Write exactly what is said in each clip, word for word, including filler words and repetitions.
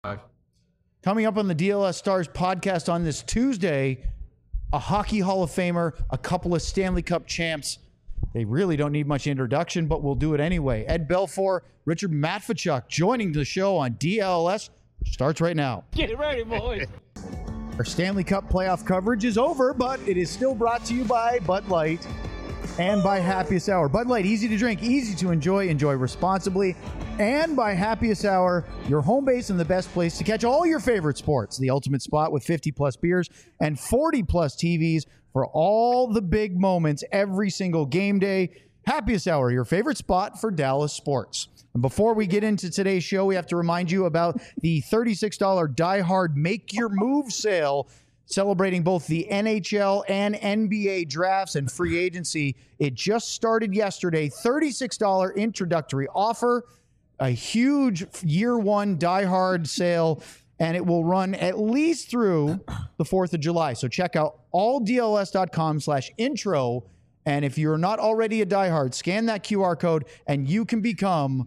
Coming up on the D L S Stars podcast on this Tuesday, a Hockey Hall of Famer, a couple of Stanley Cup champs. They really don't need much introduction, but we'll do it anyway. Ed Belfour, Richard Matvichuk joining the show on D L S. Starts right now. Get ready, boys. Our Stanley Cup playoff coverage is over, but it is still brought to you by Bud Light and by Happiest Hour. Bud Light, easy to drink, easy to enjoy, enjoy responsibly. And by Happiest Hour, your home base and the best place to catch all your favorite sports. The ultimate spot with fifty plus beers and forty plus T Vs for all the big moments every single game day. Happiest Hour, your favorite spot for Dallas sports. And before we get into today's show, we have to remind you about the thirty-six dollars Die Hard Make Your Move sale, celebrating both the N H L and N B A drafts and free agency. It just started yesterday. thirty-six dollars introductory offer, a huge year one Die Hard sale, and it will run at least through the fourth of July. So check out alldls.com slash intro. And if you're not already a diehard, scan that Q R code and you can become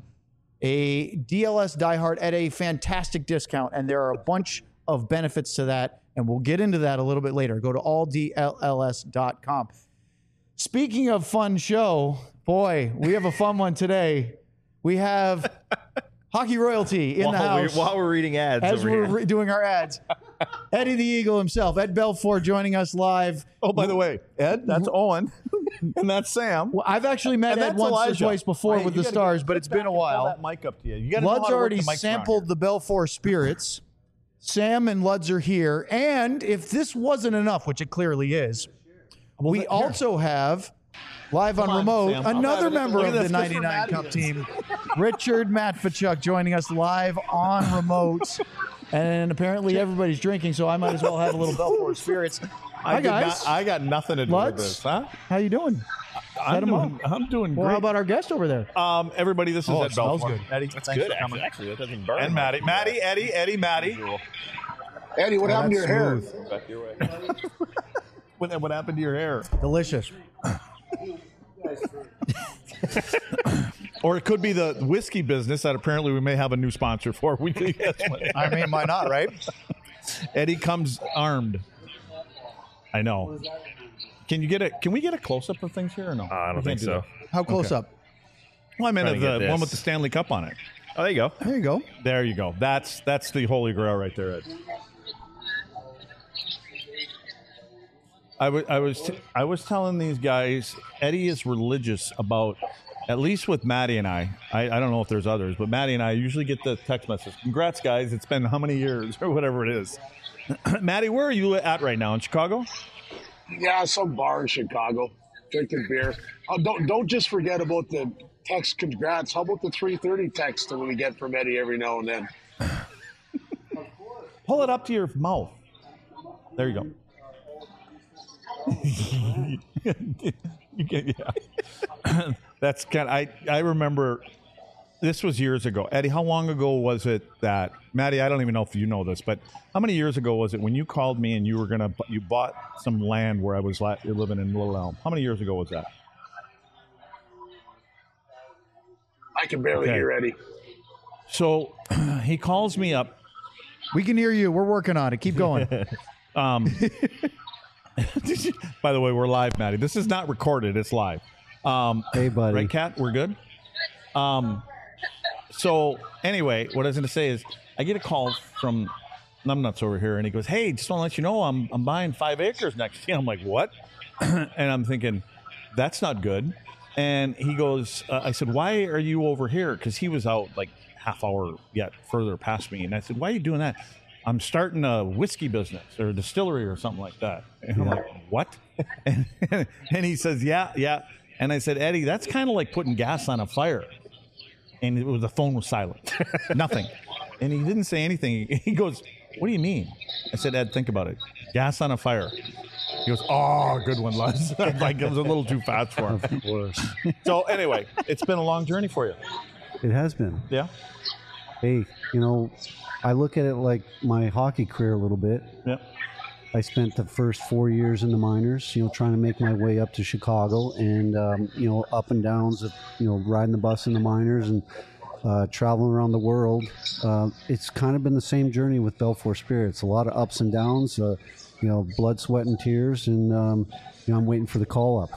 a D L S diehard at a fantastic discount. And there are a bunch of benefits to that. And we'll get into that a little bit later. Go to all D L S dot com. Speaking of fun show, boy, we have a fun one today. We have Hockey Royalty in while the house. We, while we're reading ads As over we're here. re- doing our ads. Eddie the Eagle himself, Ed Belfour, joining us live. Oh, by the way, Ed, that's Owen, and that's Sam. Well, I've actually met And Ed that's once Elijah. or twice before Hey, with you the gotta Stars, get- but sit it's been back a and pull while. that mic up to you. You gotta know how Lud's to work already the mics around sampled the Belfour spirits. Sam and Luds are here. And if this wasn't enough, which it clearly is, we here. also have, live on on, remote, Sam. I'm another having it. member Look of at the this. This for ninety-nine Cup Matthews. team, Richard Matvichuk, joining us live on remote. And apparently everybody's drinking, so I might as well have a little Belfour spirits. I Hi, did guys. not- I got nothing to do Luds? with this, huh? How you doing? I'm him doing, I'm doing Well, great. how about our guest over there? um, everybody, this is Oh, Ed it smells Belfour. good. Eddie, That's thanks good, for coming. actually. Actually, that doesn't burn. And Maddie. Maddie, Eddie, Eddie, Maddie. Eddie, what happened to your hair? Back your way. What, what happened to your hair? Delicious. Or it could be the whiskey business that apparently we may have a new sponsor for. We can guess what- I mean, why not, right? Eddie comes armed. I know. Can you get a? Can we get a close up of things here or no? Uh, I don't We think can't do so. that. How close Okay. up? Well, I meant Trying to the get one this. with the Stanley Cup on it. Oh, there you go. There you go. There you go. That's that's the holy grail right there, Ed. I was I was t- I was telling these guys, Eddie is religious about, at least with Maddie and I. I, I don't know if there's others, but Maddie and I usually get the text message. Congrats, guys! It's been how many years or whatever it is. Maddie, where are you at right now in Chicago? Yeah, some bar in Chicago, drinking beer. Oh, don't don't just forget about the text congrats. How about the three thirty text that we get from Eddie every now and then? Pull it up to your mouth. There you go. you can, yeah. That's kind. I I remember. This was years ago. Eddie, how long ago was it that, Maddie, I don't even know if you know this, but how many years ago was it when you called me and you were going to, you bought some land where I was la- living in Little Elm? How many years ago was that? I can barely Okay. hear Eddie. So he calls me up. We can hear you. We're working on it. Keep going. Um, by the way, we're live, Maddie. This is not recorded. It's live. Um, Hey, buddy. Right, Kat? We're good? Um, so anyway, what I was going to say is I get a call from Numbnuts over here, and he goes, hey, just want to let you know I'm I'm buying five acres next year. I'm like, what? And I'm thinking, that's not good. And he goes, uh, I said, why are you over here? Because he was out like half hour yet further past me. And I said, why are you doing that? I'm starting a whiskey business or a distillery or something like that. And I'm like, what? And, and he says, yeah, yeah. And I said, Eddie, that's kind of like putting gas on a fire. And it was, the phone was silent. Nothing. And he didn't say anything. He goes, what do you mean? I said, Ed, think about it. Gas on a fire. He goes, oh, good one, Les. Like it was a little too fast for him. Of course. So anyway, it's been a long journey for you. It has been. Yeah? Hey, you know, I look at it like my hockey career a little bit. Yeah. I spent the first four years in the minors, you know, trying to make my way up to Chicago and, um, you know, up and downs of, you know, riding the bus in the minors and uh, traveling around the world. Uh, it's kind of been the same journey with Belfour Spirits. A lot of ups and downs, uh, you know, blood, sweat, and tears. And, um, you know, I'm waiting for the call up.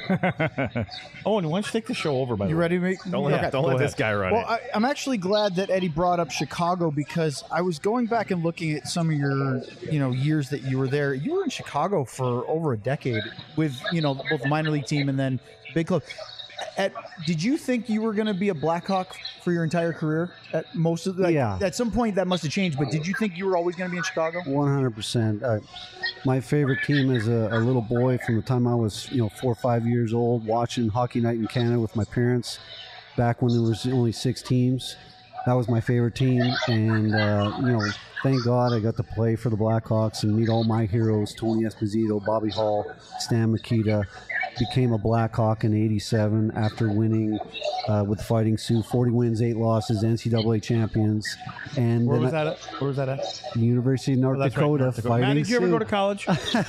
Oh, and why don't you take the show over, by the You way? ready to make? Don't let, Okay. don't go let ahead. this guy run Well, it. I, I'm actually glad that Eddie brought up Chicago because I was going back and looking at some of your, you know, years that you were there. You were in Chicago for over a decade with, you know, both the minor league team and then big club. At, did you think you were going to be a Blackhawk for your entire career? At most of the, like, Yeah. At some point that must have changed, but did you think you were always going to be in Chicago? one hundred percent. Uh, my favorite team as a, a little boy from the time I was, you know, four or five years old, watching Hockey Night in Canada with my parents back when there was only six teams. That was my favorite team. And, uh, you know, thank God I got to play for the Blackhawks and meet all my heroes, Tony Esposito, Bobby Hall, Stan Mikita. Became a Blackhawk in eighty-seven after winning uh, with the Fighting Sioux, forty wins, eight losses, N C double A champions. And Where then was I- that at? Where was that at? the University of North, Oh, that's right, Dakota, North Dakota. Fighting Matt, did you ever Sioux. go to college? No, we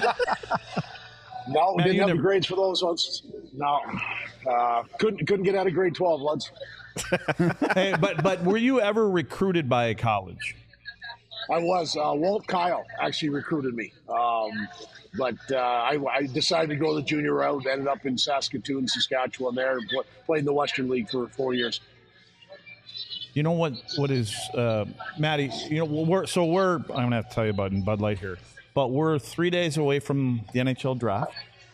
Matt, didn't you have never- the grades for those ones. No, uh, couldn't couldn't get out of grade twelve, lads. Hey, but but were you ever recruited by a college? I was. Uh, Walt Kyle actually recruited me. Um, but uh, I, I decided to go the junior route, ended up in Saskatoon, Saskatchewan there, and pl- played in the Western League for four years. You know what? What is uh, Maddie? You know, well, we're so we're. I'm gonna have to tell you about in Bud Light here, but we're three days away from the N H L draft,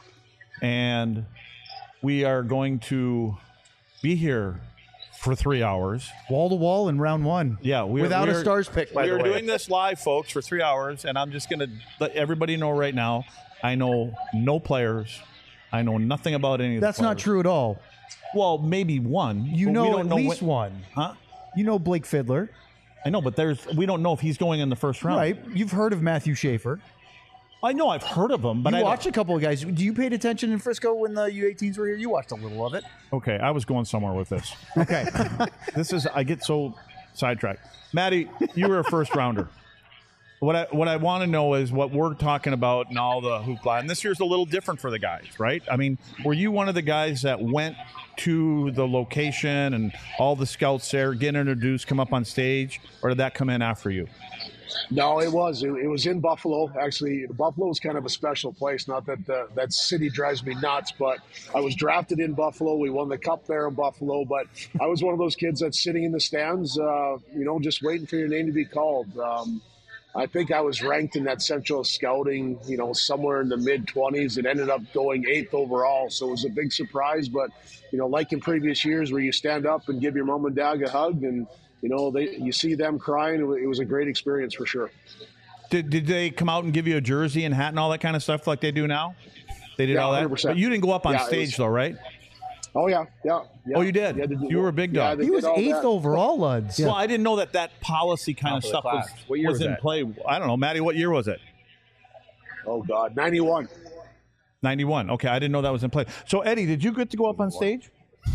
and we are going to be here for three hours. Wall to wall in round one. Yeah, we without we a stars pick. By we the are way, doing this live, folks, for three hours, and I'm just going to let everybody know right now. I know no players. I know nothing about any of the that's not players. true at all. Well, maybe one. You but know we don't at know least when- one. Huh? You know Blake Fiddler, I know, but there's we don't know if he's going in the first round. right? You've heard of Matthew Schaefer. I know I've heard of him, but you I don't- watched a couple of guys. Do you paid attention in Frisco when the U eighteens were here? You watched a little of it. Okay, I was going somewhere with this. Okay. This is I get so sidetracked. Maddie, you were a first rounder. What I what I want to know is what we're talking about and all the hoopla. And this year's a little different for the guys, right? I mean, were you one of the guys that went to the location and all the scouts there, get introduced, come up on stage, or did that come in after you? No, it was. It, it was in Buffalo. Actually, Buffalo is kind of a special place. Not that uh, that city drives me nuts, but I was drafted in Buffalo. We won the cup there in Buffalo. But I was one of those kids that's sitting in the stands, uh, you know, just waiting for your name to be called. Um, I think I was ranked in that Central Scouting, you know, somewhere in the mid twenties. It ended up going eighth overall, so it was a big surprise. But you know, like in previous years, where you stand up and give your mom and dad a hug, and you know, they you see them crying. It wa- it was a great experience for sure. Did did they come out and give you a jersey and hat and all that kind of stuff like they do now? They did Yeah, all that, one hundred percent. but you didn't go up on Yeah, it stage was- though, right? Oh yeah, yeah. yeah. Oh, you did? Yeah, they did- You were a big yeah, dog. they He did was all eighth that. overall, Luds. Well, I didn't know that that policy kind of Top of the stuff was, class. What year was was in that? play. I don't know, Maddie. What year was it? Oh God, ninety-one. ninety-one. Okay, I didn't know that was in play. So, Eddie, did you get to go up on stage?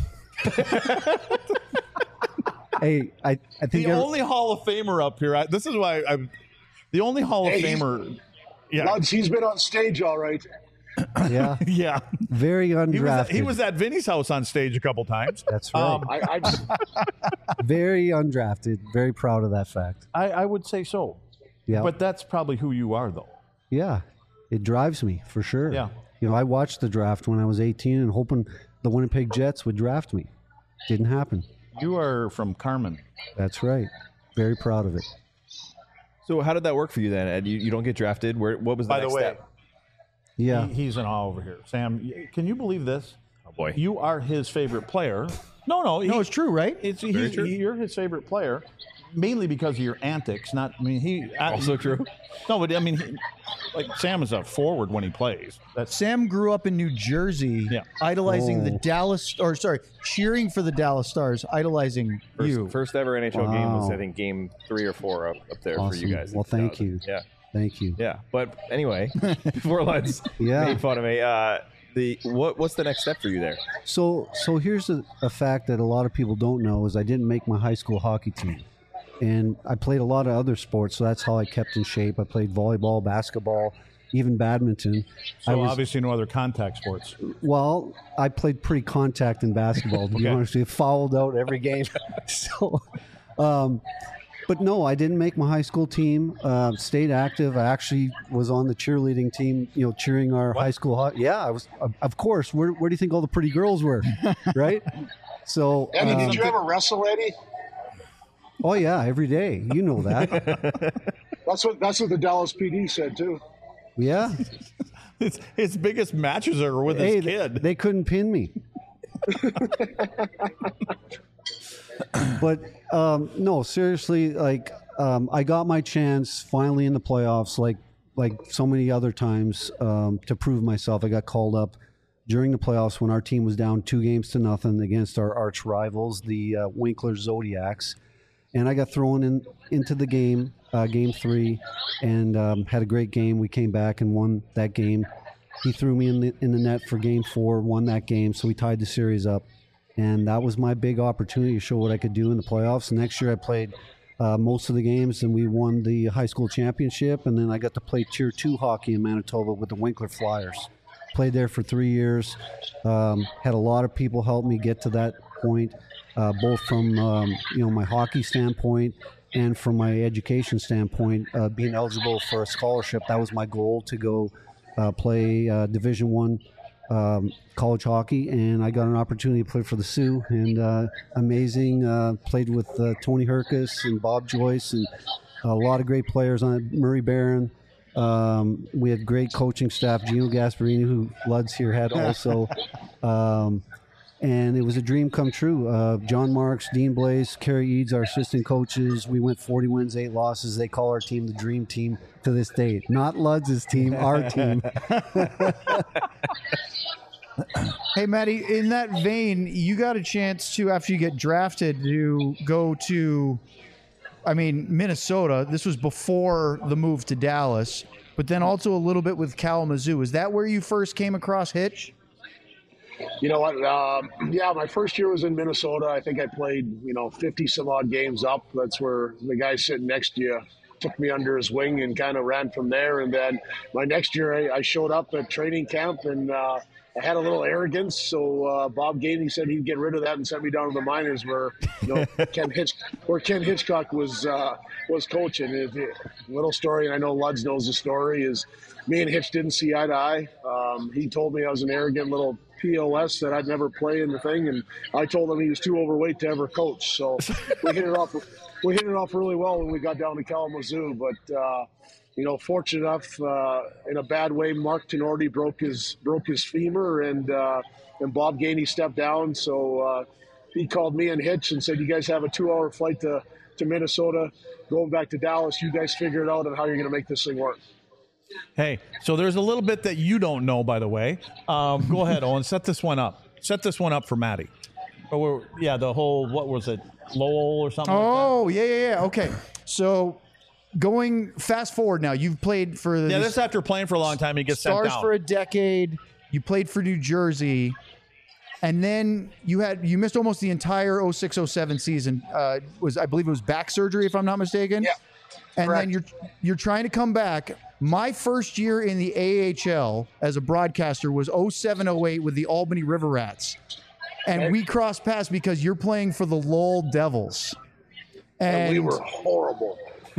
Hey, I, I think The every- only Hall of Famer up here. I, this is why I'm the only Hall of Hey, he's- Famer. Yeah, Luds, he's been on stage all right. yeah, yeah. very He was, undrafted. he was at Vinny's house on stage a couple times. That's right. Um, I, I Very undrafted. Very proud of that fact. I, I would say so. Yeah, But that's probably who you are, though. yeah, it drives me for sure. Yeah. you know, I watched the draft when I was eighteen and hoping the Winnipeg Jets would draft me. Didn't happen. You are from Carmen. That's right. Very proud of it. So how did that work for you then, Ed? You, you don't get drafted. Where? What was the By the next way, step? Yeah, he, he's in awe over here. Sam, y- can you believe this? Oh boy. You are his favorite player. No, no, No, he- it's true, right? It's Very he's, true. he- you're his favorite player, mainly because of your antics. Not, I mean, he Also true. No, but I mean, he, like Sam is a forward when he plays. That's Sam grew up in New Jersey, Yeah. idolizing the Oh. Dallas, or sorry, cheering for the Dallas Stars, idolizing First, you. first ever N H L game was Wow. I think game three or four up, up there for Awesome. you guys. in Well, thank two thousand. you. Yeah, thank you. yeah. But anyway, before let's Yeah. made fun of me. Uh, the what what's the next step for you there? So, so here's a, a fact that a lot of people don't know is I didn't make my high school hockey team, and I played a lot of other sports, so that's how I kept in shape. I played volleyball, basketball, even badminton. So I was, obviously no other contact sports. well, I played pretty contact in basketball, to be Okay. honest with you. Fouled out every game. so, um, but no, I didn't make my high school team. Uh, stayed active. I actually was on the cheerleading team, you know, cheering our high school. ho- Yeah, I was, of- of course. Where, where do you think all the pretty girls were? Right? So, Eddie, um, did you ever wrestle, Eddie? oh, yeah, every day. You know that. That's what that's what the Dallas P D said too. Yeah. His, his biggest matches are with Hey, his they, kid. they couldn't pin me. But um, no, seriously, like um, I got my chance finally in the playoffs, like like so many other times, um, to prove myself. I got called up during the playoffs when our team was down two games to nothing against our arch rivals, the uh, Winkler Zodiacs, and I got thrown in into the game, uh, game three, and um, had a great game. We came back and won that game. He threw me in the in the net for game four, won that game, so we tied the series up. And that was my big opportunity to show what I could do in the playoffs. Next year I played uh, most of the games, and we won the high school championship. And then I got to play Tier two hockey in Manitoba with the Winkler Flyers. Played there for three years. Um, had a lot of people help me get to that point, uh, both from um, you know my hockey standpoint and from my education standpoint. Uh, being eligible for a scholarship, that was my goal, to go uh, play uh, Division One um, college hockey, and I got an opportunity to play for the Sioux, and uh, amazing. Uh, played with uh, Tony Herkus and Bob Joyce, and a lot of great players on it. Murray Barron. Um, we had great coaching staff. Gino Gasparini, who Luds here had also. Um, and it was a dream come true. Uh, John Marks, Dean Blaze, Kerry Eads, our assistant coaches. We went forty wins, eight losses. They call our team the dream team to this day. Not Luds' team, our team. Hey, Matty, in that vein, you got a chance to, after you get drafted, to go to, I mean, Minnesota. This was before the move to Dallas, but then also a little bit with Kalamazoo. Is that where you first came across Hitch? You know what? Um, yeah, my first year was in Minnesota. I think I played, you know, fifty some odd games up. That's where the guy sitting next to you took me under his wing and kind of ran from there. And then my next year, I, I showed up at training camp, and uh, I had a little arrogance. So uh, Bob Gainey said he'd get rid of that and sent me down to the minors, where you know Ken Hitch, where Ken Hitchcock was uh, was coaching. It, it, little story, and I know Luds knows the story, is me and Hitch didn't see eye to eye. Um, he told me I was an arrogant little P O S that I'd never play in the thing, and I told him he was too overweight to ever coach. So we hit it off. We hit it off really well when we got down to Kalamazoo. But uh, you know, fortunate enough, uh, in a bad way, Mark Tenorti broke his broke his femur, and uh, and Bob Gainey stepped down. So uh, he called me and Hitch and said, "You guys have a two-hour flight to to Minnesota, going back to Dallas. You guys figure it out on how you're going to make this thing work." Hey, so there's a little bit that you don't know, by the way. Um, go ahead, Owen. Set this one up. Set this one up for Matty. Or yeah, the whole, what was it, Lowell or something? Oh, yeah, yeah, yeah. Okay. So going fast forward now, you've played for the like that? Yeah, this after playing for a long time, he gets sent Stars down. for a decade. You played for New Jersey. And then you had you missed almost the entire oh six oh seven season. Uh, was I believe it was back surgery, if I'm not mistaken. Yeah. And correct. then you're you're trying to come back. My first year in the A H L as a broadcaster was oh seven oh eight with the Albany River Rats. And Okay. we crossed paths because you're playing for the Lowell Devils. And, And we were horrible.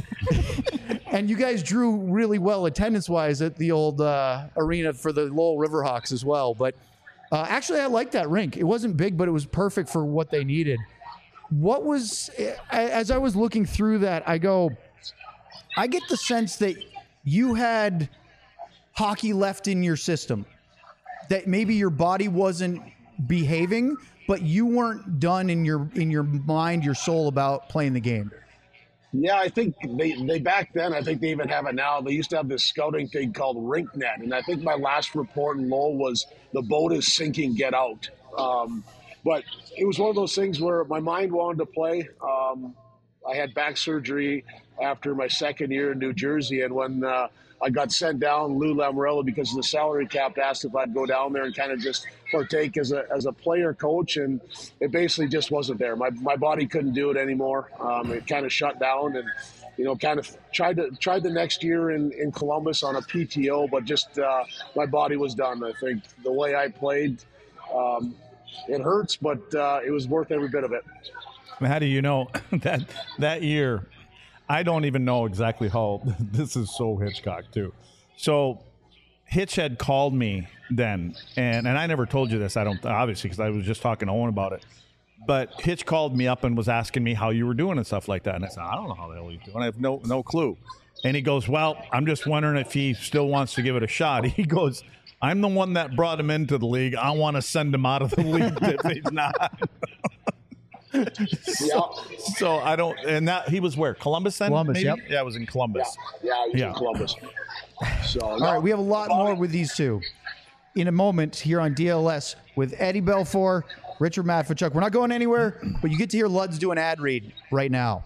and you guys drew really well attendance-wise at the old uh, arena for the Lowell Riverhawks as well. But uh, actually, I liked that rink. It wasn't big, but it was perfect for what they needed. What was, as I was looking through that, I go, I get the sense that you had hockey left in your system, that maybe your body wasn't behaving, but you weren't done in your in your mind, your soul about playing the game. Yeah, I think they, they back then, I think they even have it now. They used to have this scouting thing called RinkNet. And I think my last report in Lowell was the boat is sinking, get out. Um, but it was one of those things where my mind wanted to play. Um, I had back surgery after my second year in New Jersey. And when uh, I got sent down, Lou Lamorello, because of the salary cap, asked if I'd go down there and kind of just partake as a as a player coach, and it basically just wasn't there. My my body couldn't do it anymore. Um, it kind of shut down, and you know, kind of tried to tried the next year in, in Columbus on a P T O, but just uh, my body was done. I think the way I played, um, it hurts, but uh, it was worth every bit of it. How do you know that that year? I don't even know exactly how. This is so Hitchcock too. So Hitch had called me then, and and I never told you this. I don't obviously because I was just talking to Owen about it. But Hitch called me up and was asking me how you were doing and stuff like that, and I said I don't know how the hell he's doing. I have no no clue. And he goes, well, I'm just wondering if he still wants to give it a shot. He goes, I'm the one that brought him into the league. I want to send him out of the league if he's not. so, Yeah. so I don't, and that he was where Columbus then. Columbus, maybe? yep. Yeah, it was in Columbus. Yeah, yeah, he's Yeah. in Columbus. So All right, we have a lot more with these two in a moment here on D L S with Eddie Belfour, Richard Matvichuk. We're not going anywhere, but you get to hear Luds do an ad read right now.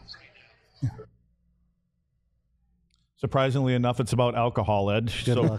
Surprisingly enough, it's about alcohol, Ed. Good so, luck.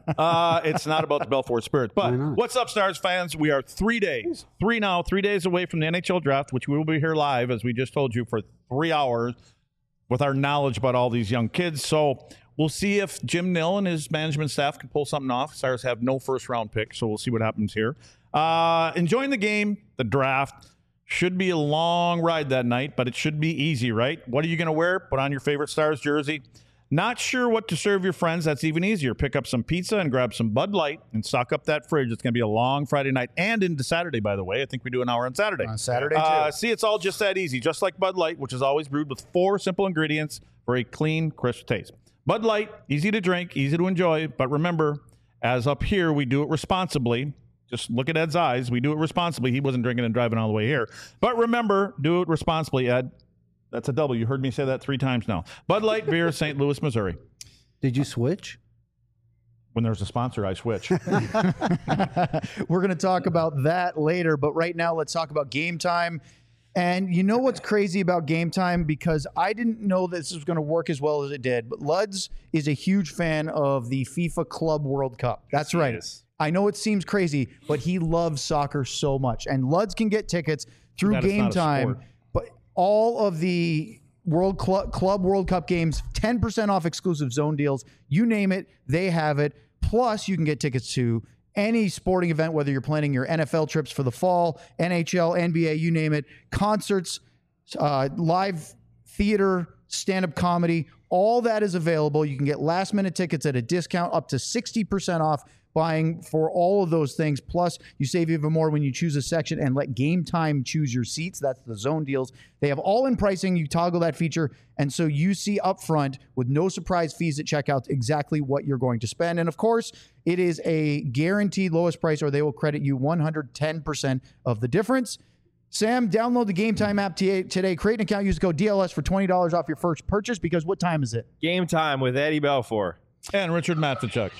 uh, it's not about the Belfour Spirit. But Why not? what's up, Stars fans? We are three days, three now, three days away from the N H L draft, which we will be here live, as we just told you, for three hours with our knowledge about all these young kids. So we'll see if Jim Nill and his management staff can pull something off. Stars have no first-round pick, so we'll see what happens here. Uh, enjoying the game, the draft. Should be a long ride that night, but it should be easy, right? What are you going to wear? Put on your favorite Stars jersey. Not sure what to serve your friends? That's even easier. Pick up some pizza and grab some Bud Light and stock up that fridge. It's going to be a long Friday night and into Saturday, by the way. I think we do an hour on Saturday. On Saturday, too. Uh, see, it's all just that easy. Just like Bud Light, which is always brewed with four simple ingredients for a clean, crisp taste. Bud Light, easy to drink, easy to enjoy. But remember, as up here, we do it responsibly. Just look at Ed's eyes. We do it responsibly. He wasn't drinking and driving all the way here. But remember, do it responsibly, Ed. That's a double. You heard me say that three times now. Bud Light Beer, Saint Louis, Missouri. Did you switch? When there's a sponsor, I switch. We're going to talk about that later, but right now let's talk about Game Time. And you know what's crazy about Game Time? Because I didn't know this was going to work as well as it did, but Luds is a huge fan of the FIFA Club World Cup. That's right. is. I know it seems crazy, but he loves soccer so much. And Luds can get tickets through That is Game not a Time, sport. but all of the World Club, Club World Cup games, ten percent off exclusive zone deals. You name it, they have it. Plus, you can get tickets to any sporting event, whether you're planning your N F L trips for the fall, N H L, N B A, you name it, concerts, uh, live theater, stand-up comedy. All that is available. You can get last-minute tickets at a discount, up to sixty percent off buying for all of those things. Plus, you save even more when you choose a section and let Game Time choose your seats. That's the zone deals. They have all-in pricing. You toggle that feature, and so you see up front with no surprise fees at checkout exactly what you're going to spend. And, of course, it is a guaranteed lowest price, or they will credit you one hundred ten percent of the difference. Sam, download the Game Time app t- today. Create an account. Use code D L S for twenty dollars off your first purchase, because what time is it? Game Time with Eddie Belfour. And Richard Matvichuk.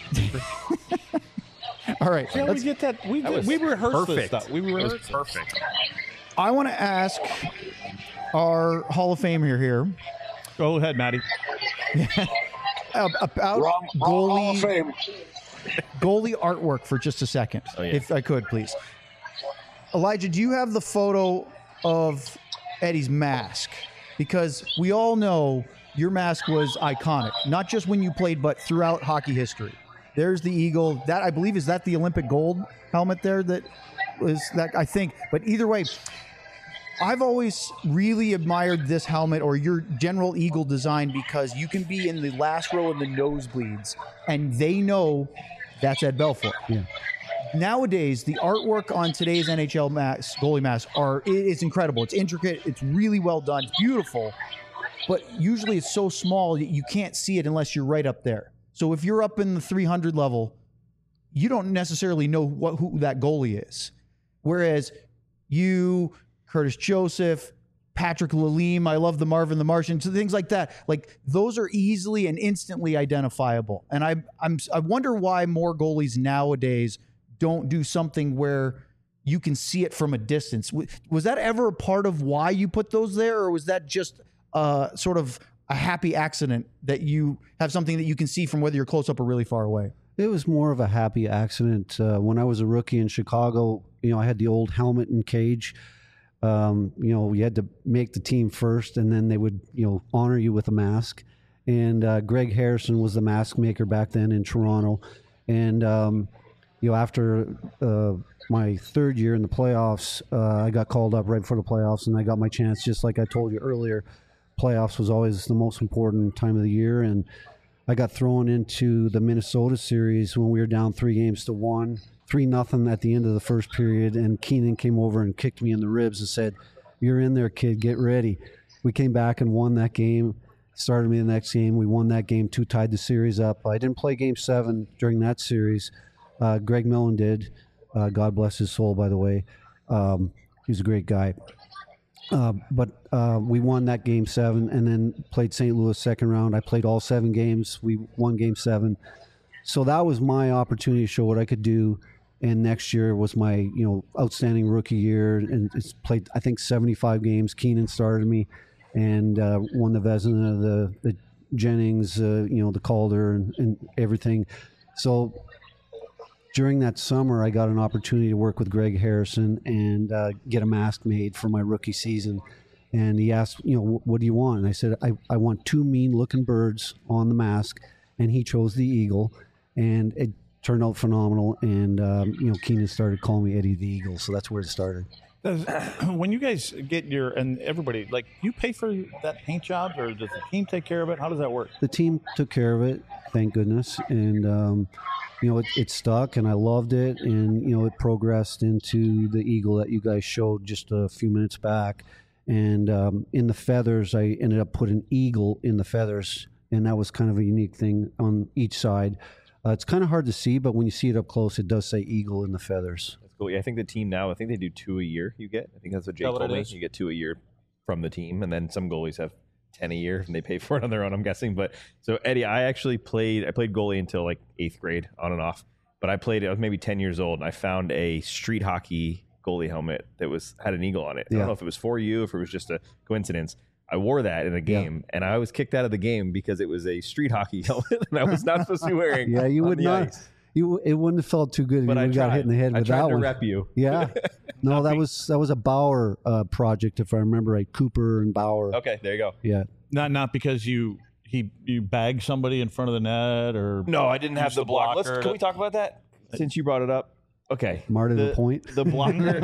All right. Yeah, we let's- get that. We, That was we rehearsed this perfect. stuff. We It was rehearsed it. perfect. I want to ask our Hall of Famer here Go ahead, Maddie. ab- about Wrong, wrong Hall of goalie Fame. goalie artwork for just a second, Oh, yeah. if I could, please. Elijah, do you have the photo of Eddie's mask? Because we all know your mask was iconic, not just when you played, but throughout hockey history. There's the eagle. That, I believe, is that the Olympic gold helmet there that was that, I think. But either way, I've always really admired this helmet or your general eagle design, because you can be in the last row of the nosebleeds and they know that's Ed Belfour. Yeah. Nowadays, the artwork on today's N H L mask, goalie masks are it- it's incredible. It's intricate. It's really well done. It's beautiful. But usually it's so small that you can't see it unless you're right up there. So if you're up in the three hundred level, you don't necessarily know what who that goalie is. Whereas you, Curtis Joseph, Patrick Lalime, I love the Marvin the Martian, so things like that. Like those are easily and instantly identifiable. And I I'm I wonder why more goalies nowadays don't do something where you can see it from a distance. W- Was that ever a part of why you put those there, or was that just uh, sort of a happy accident that you have something that you can see from whether you're close up or really far away? It was more of a happy accident. Uh, when I was a rookie in Chicago, you know, I had the old helmet and cage. Um, you know, you had to make the team first, and then they would, you know, honor you with a mask. And uh, Greg Harrison was the mask maker back then in Toronto. And, um, you know, after uh, my third year in the playoffs, uh, I got called up right before the playoffs, and I got my chance, just like I told you earlier. Playoffs was always the most important time of the year, and I got thrown into the Minnesota series when we were down three games to one. Three nothing at the end of the first period, and Keenan came over and kicked me in the ribs and said, "You're in there, kid. Get ready." We came back and won that game. Started me the next game. We won that game too, tied the series up. I didn't play game seven during that series. Uh, Greg Millen did. Uh, God bless his soul, by the way. Um, he was a great guy. Uh, but uh, we won that game seven and then played Saint Louis second round. I played all seven games. We won game seven. So that was my opportunity to show what I could do. And next year was my, you know, outstanding rookie year, and it's played, I think, seventy-five games. Keenan started me, and uh, won the Vezina, the the Jennings, uh, you know, the Calder, and, and everything. So during that summer, I got an opportunity to work with Greg Harrison and uh, get a mask made for my rookie season. And he asked, you know, what do you want? And I said, I, I want two mean-looking birds on the mask, and he chose the eagle, and it turned out phenomenal, and um, you know, Keenan started calling me Eddie the Eagle, so that's where it started. Does, when you guys get your, and everybody, like, you pay for that paint job, or does the team take care of it? How does that work? The team took care of it, thank goodness, and um, you know, it, it stuck, and I loved it, and you know, it progressed into the eagle that you guys showed just a few minutes back, and um, in the feathers, I ended up putting eagle in the feathers, and that was kind of a unique thing on each side. Uh, it's kind of hard to see, but when you see it up close, it does say eagle in the feathers. That's cool. Yeah, I think the team now, I think they do two a year you get. I think that's what Jake Is that what told it me. is? You get two a year from the team, and then some goalies have ten a year, and they pay for it on their own, I'm guessing. But so, Eddie, I actually played, I played goalie until like eighth grade, on and off. But I played, I was maybe ten years old, and I found a street hockey goalie helmet that was had an eagle on it. I Yeah. don't know if it was for you, if it was just a coincidence. I wore that in a game, yeah. and I was kicked out of the game because it was a street hockey helmet, and I was not supposed to be wearing. Yeah, you on would the not. ice. You it wouldn't have felt too good if But you I would got tried. hit in the head I with tried that to one. rep you. Yeah, no, that was that was a Bauer uh, project, if I remember right. Cooper and Bauer. Okay, there you go. Yeah, Not not because you he you bagged somebody in front of the net, or No, I didn't have Use the the block. Let's, blocker can to- we talk about that since you brought it up? Okay, Marty the, the point. The blocker,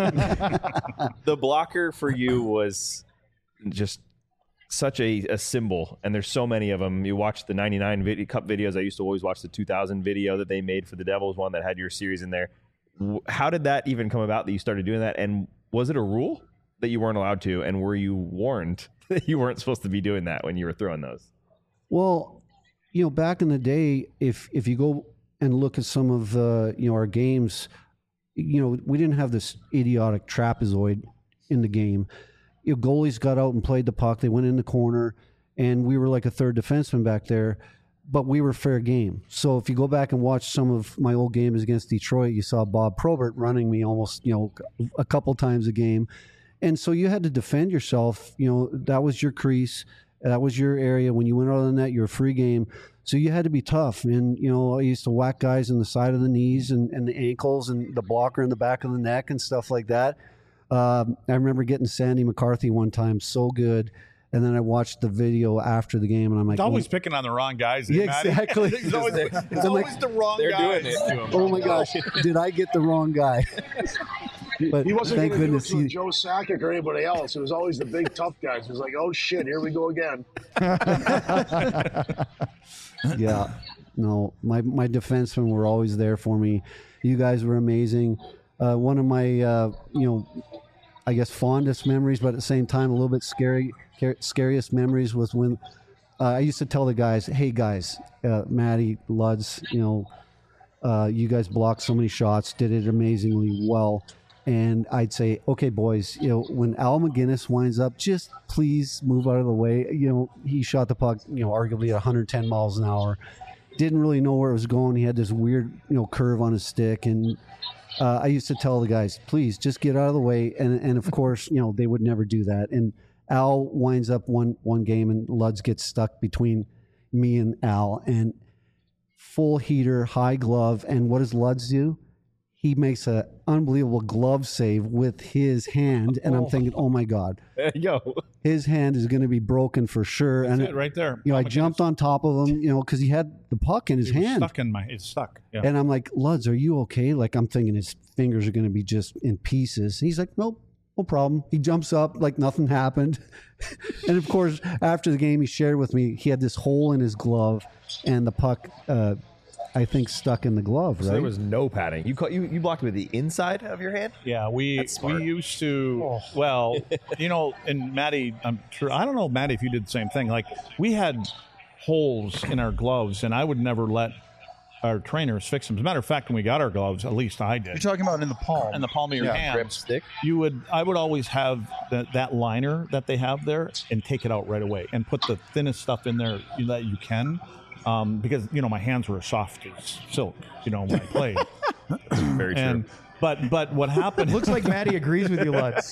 the blocker for you was just such a, a symbol, and there's so many of them. You watch the ninety-nine vid- Cup videos. I used to always watch the two thousand video that they made for the Devils, one that had your series in there. W- How did that even come about that you started doing that? And was it a rule that you weren't allowed to? And were you warned that you weren't supposed to be doing that when you were throwing those? Well, you know, back in the day, if if you go and look at some of uh, you know our games, you know, we didn't have this idiotic trapezoid in the game. You know, goalies got out and played the puck. They went in the corner, and we were like a third defenseman back there, but we were fair game. So if you go back and watch some of my old games against Detroit, you saw Bob Probert running me almost, you know, a couple times a game. And so you had to defend yourself. You know, that was your crease. That was your area. When you went out of the net, you were free game. So you had to be tough. And, you know, I used to whack guys in the side of the knees and, and the ankles and the blocker in the back of the neck and stuff like that. Um, I remember getting Sandy McCarthy one time so good. And then I watched the video after the game, and I'm like, it's always oh, picking on the wrong guys. Yeah, eh, Matty? exactly. it's always, it's I'm like, always the wrong they're guys. doing it. to him. oh my gosh, did I get the wrong guy? But He wasn't thank going to do it goodness to he, Joe Sakic or anybody else. It was always the big tough guys. It was like, oh shit, here we go again. yeah, no, my my defensemen were always there for me. You guys were amazing. Uh, one of my, uh, you know, I guess fondest memories, but at the same time a little bit scary, car- scariest memories was when uh, I used to tell the guys, "Hey guys, uh, Matty, Luds, you know, uh, you guys blocked so many shots, did it amazingly well." And I'd say, "Okay, boys, you know, when Al McGinnis winds up, just please move out of the way." You know, he shot the puck, you know, arguably at one hundred ten miles an hour. Didn't really know where it was going. He had this weird, you know, curve on his stick, and uh, I used to tell the guys, "Please, just get out of the way." And and of course, you know, they would never do that. And Al winds up one one game, and Luds gets stuck between me and Al, and full heater, high glove, and what does Luds do? he makes an unbelievable glove save with his hand, and I'm thinking, oh my God, Yo. his hand is going to be broken for sure. That's and it right there. You know, Oh I my jumped goodness. on top of him, you know, because he had the puck in his It was hand. stuck in my. It's stuck. Yeah. And I'm like, Luds, are you okay? Like, I'm thinking his fingers are going to be just in pieces. He's like, nope, no problem. He jumps up like nothing happened. And of course, after the game, he shared with me he had this hole in his glove, and the puck, uh, I think, stuck in the glove, So right? there was no padding. You caught, you you blocked with the inside of your hand. Yeah, we That's we smart. used to. Well, you know, and Maddie, I'm sure. I don't know, Maddie, if you did the same thing. Like we had holes in our gloves, and I would never let our trainers fix them. As a matter of fact, when we got our gloves, at least I did. You're talking about in the palm. In the palm of your Yeah. hand, Grip stick. you would. I would always have that that liner that they have there, and take it out right away, and put the thinnest stuff in there that you can. Um, because you know my hands were as soft as silk, you know, when I played. Very true. and but but what happened? Looks like Maddie agrees with you, Lutz.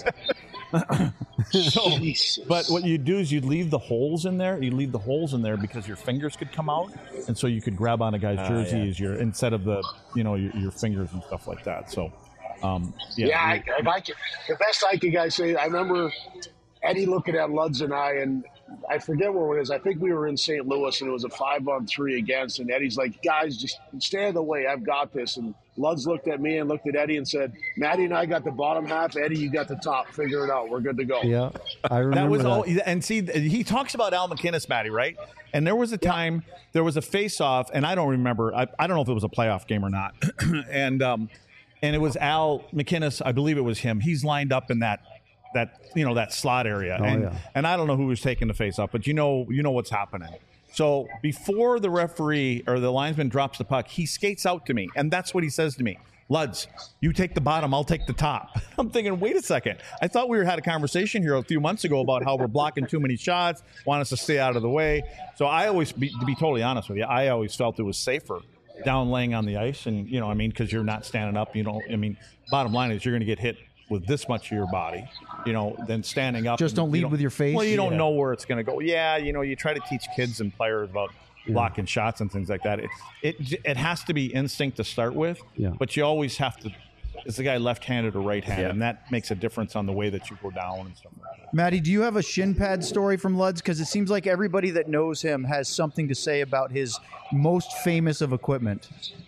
so, Jesus. but what you do is you leave the holes in there. You leave the holes in there because your fingers could come out, and so you could grab on a guy's Ah, jersey yeah. as your instead of the you know your, your fingers and stuff like that. So, um, yeah, Yeah, I, we- if I can, the best I can guys say, I remember Eddie looking at Luds and I, and I forget where it is. I think we were in Saint Louis, and it was a five on three against. And Eddie's like, "Guys, just stay out of the way. I've got this." And Luds looked at me and looked at Eddie and said, "Maddie and I got the bottom half. Eddie, you got the top. Figure it out. We're good to go." yeah, I remember that was that. all. And see, he talks about Al McInnes, Matty, right? And there was a time there was a face-off, and I don't remember. I, I don't know if it was a playoff game or not. and um, and it was Al McInnes. I believe it was him. He's lined up in that that you know that slot area, Oh, and yeah. and I don't know who was taking the face-off, but you know you know what's happening. So before the referee or the linesman drops the puck, he skates out to me, and that's what he says to me. Luds, you take the bottom, I'll take the top. I'm thinking, wait a second. I thought we were had a conversation here a few months ago about how we're blocking too many shots, want us to stay out of the way. So I always, be, to be totally honest with you, I always felt it was safer down laying on the ice, and you know, I mean, because you're not standing up. You know, I mean, bottom line is you're going to get hit with this much of your body, you know, than standing up. Just and don't you lead with your face? Well, you don't Yeah. know where it's going to go. Yeah, you know, you try to teach kids and players about blocking shots and things like that. It, it it has to be instinct to start with, Yeah. but you always have to. Is the guy left-handed or right-handed, Yeah. and that makes a difference on the way that you go down and stuff like that. Maddie, do you have a shin pad story from Luds? Because it seems like everybody that knows him has something to say about his most famous of equipment.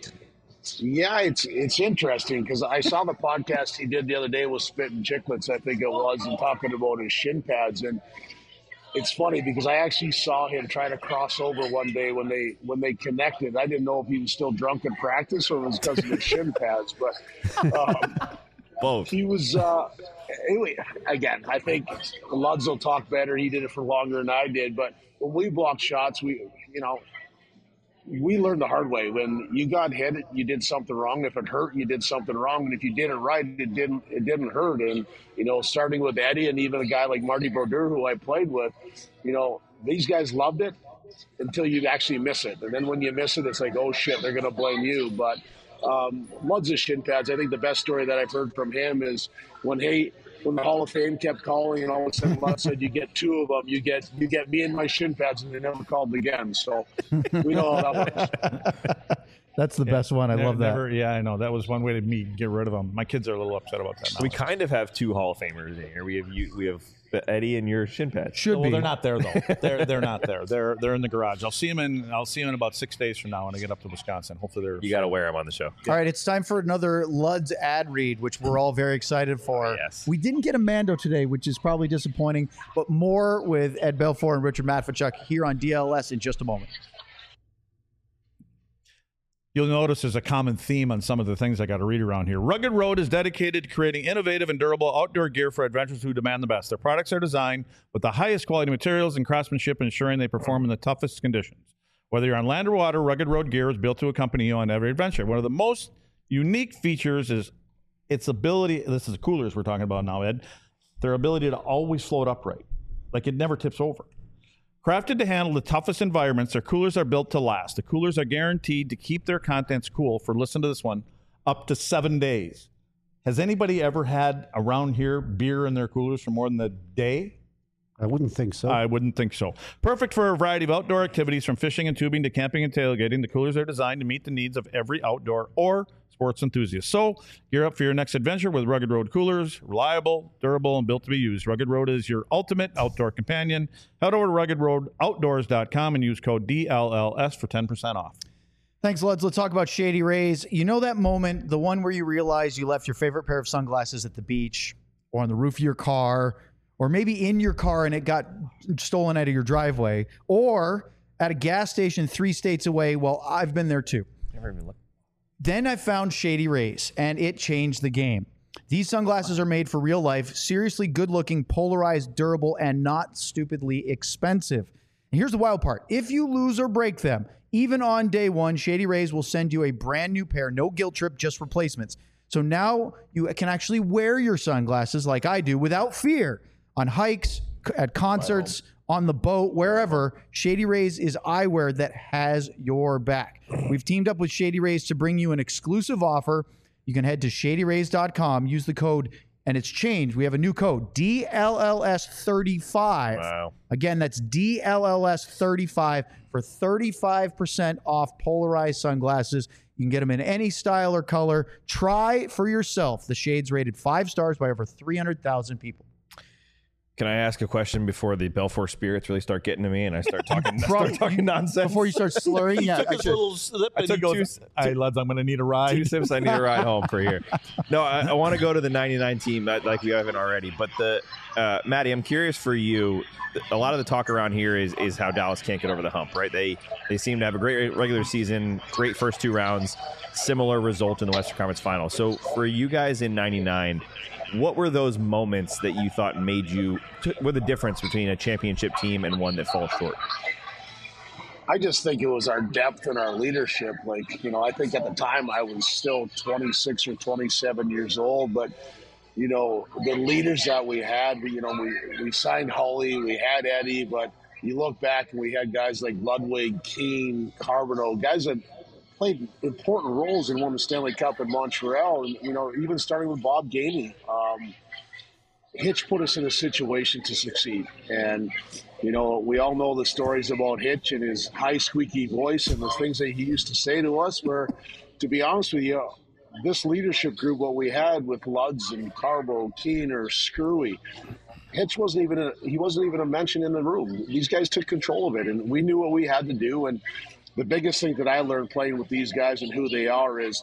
Yeah, it's it's interesting because I saw the podcast he did the other day with Spit and Chicklets, I think it was, and talking about his shin pads. And it's funny because I actually saw him try to cross over one day when they when they connected. I didn't know if he was still drunk in practice or it was because of his shin pads, but um, Both. he was. Uh, anyway, again, I think Luds will talk better. He did it for longer than I did, but when we blocked shots, we you know. We learned the hard way. When you got hit, you did something wrong. If it hurt, you did something wrong. And if you did it right, it didn't. It didn't hurt. And you know, starting with Eddie and even a guy like Marty Brodeur, who I played with, you know, these guys loved it until you actually miss it. And then when you miss it, it's like, oh shit, they're going to blame you. But um, Luds' shin pads. I think the best story that I've heard from him is when he. When the Hall of Fame kept calling, and all of a sudden Lutz said, "You get two of them. You get you get me and my shin pads," and they never called again. So we know how that works. That's the best one. I Never- love that. never- yeah, I know. That was one way to me get rid of them. My kids are a little upset about that now. We kind of have two Hall of Famers in here. We have you. We have Eddie and your shin pads. Should well, be. they're not there though. They're they're not there. They're they're in the garage. I'll see them in. I'll see them in about six days from now when I get up to Wisconsin. Hopefully they're. You got to wear them on the show. All right, it's time for another Luds ad read, which we're all very excited for. Yes. We didn't get a Mando today, which is probably disappointing, but more with Ed Belfour and Richard Matvichuk here on D L S in just a moment. You'll notice there's a common theme on some of the things I got to read around here. Rugged Road is dedicated to creating innovative and durable outdoor gear for adventurers who demand the best. Their products are designed with the highest quality materials and craftsmanship, ensuring they perform in the toughest conditions. Whether you're on land or water, Rugged Road gear is built to accompany you on every adventure. One of the most unique features is its ability, this is the coolers we're talking about now, Ed, their ability to always float upright. Like it never tips over. Crafted to handle the toughest environments, their coolers are built to last. The coolers are guaranteed to keep their contents cool for, listen to this one, up to seven days. Has anybody ever had around here beer in their coolers for more than a day? I wouldn't think so. I wouldn't think so. Perfect for a variety of outdoor activities, from fishing and tubing to camping and tailgating. The coolers are designed to meet the needs of every outdoor or sports enthusiast. So gear up for your next adventure with Rugged Road coolers. Reliable, durable, and built to be used. Rugged Road is your ultimate outdoor companion. Head over to rugged road outdoors dot com and use code D L L S for ten percent off. Thanks, Luds. Let's talk about Shady Rays. You know that moment, the one where you realize you left your favorite pair of sunglasses at the beach or on the roof of your car, or maybe in your car and it got stolen out of your driveway, or at a gas station three states away. Well, I've been there too. Never even looked. Then I found Shady Rays, and it changed the game. These sunglasses are made for real life, seriously good-looking, polarized, durable, and not stupidly expensive. And here's the wild part. If you lose or break them, even on day one, Shady Rays will send you a brand new pair. No guilt trip, just replacements. So now you can actually wear your sunglasses like I do without fear. On hikes, at concerts, on the boat, wherever, Shady Rays is eyewear that has your back. We've teamed up with Shady Rays to bring you an exclusive offer. You can head to shady rays dot com, use the code, and it's changed. We have a new code, D L L S thirty-five. Wow. Again, that's D L L S thirty-five for thirty-five percent off polarized sunglasses. You can get them in any style or color. Try for yourself. The shades rated five stars by over three hundred thousand people. Can I ask a question before the Belfort spirits really start getting to me and I start talking, start talking nonsense? Before you start slurring, yeah. Took I his should- little slip I and took he goes, two- "Hey, lads, I'm going to need a ride." Two sips, I need a ride home for here. No, I, I want to go to the ninety-nine team, that, like we haven't already. But the uh, Maddie, I'm curious for you. A lot of the talk around here is is how Dallas can't get over the hump, right? They they seem to have a great regular season, great first two rounds, similar result in the Western Conference Final. So for you guys in ninety-nine, what were those moments that you thought made you, were the difference between a championship team and one that falls short? I just think it was our depth and our leadership. Like, you know, I think at the time I was still twenty-six or twenty-seven years old, but, you know, the leaders that we had, you know, we, we signed Holly, we had Eddie, but you look back and we had guys like Ludwig, Keane, Carbonneau, guys that played important roles and won the Stanley Cup in Montreal. And, you know, even starting with Bob Gainey, um, Hitch put us in a situation to succeed. And, you know, we all know the stories about Hitch and his high squeaky voice and the things that he used to say to us were, to be honest with you, this leadership group, what we had with Luds and Carbo, Keener, Screwy, Hitch wasn't even a, he wasn't even a mention in the room. These guys took control of it, and we knew what we had to do. And the biggest thing that I learned playing with these guys and who they are is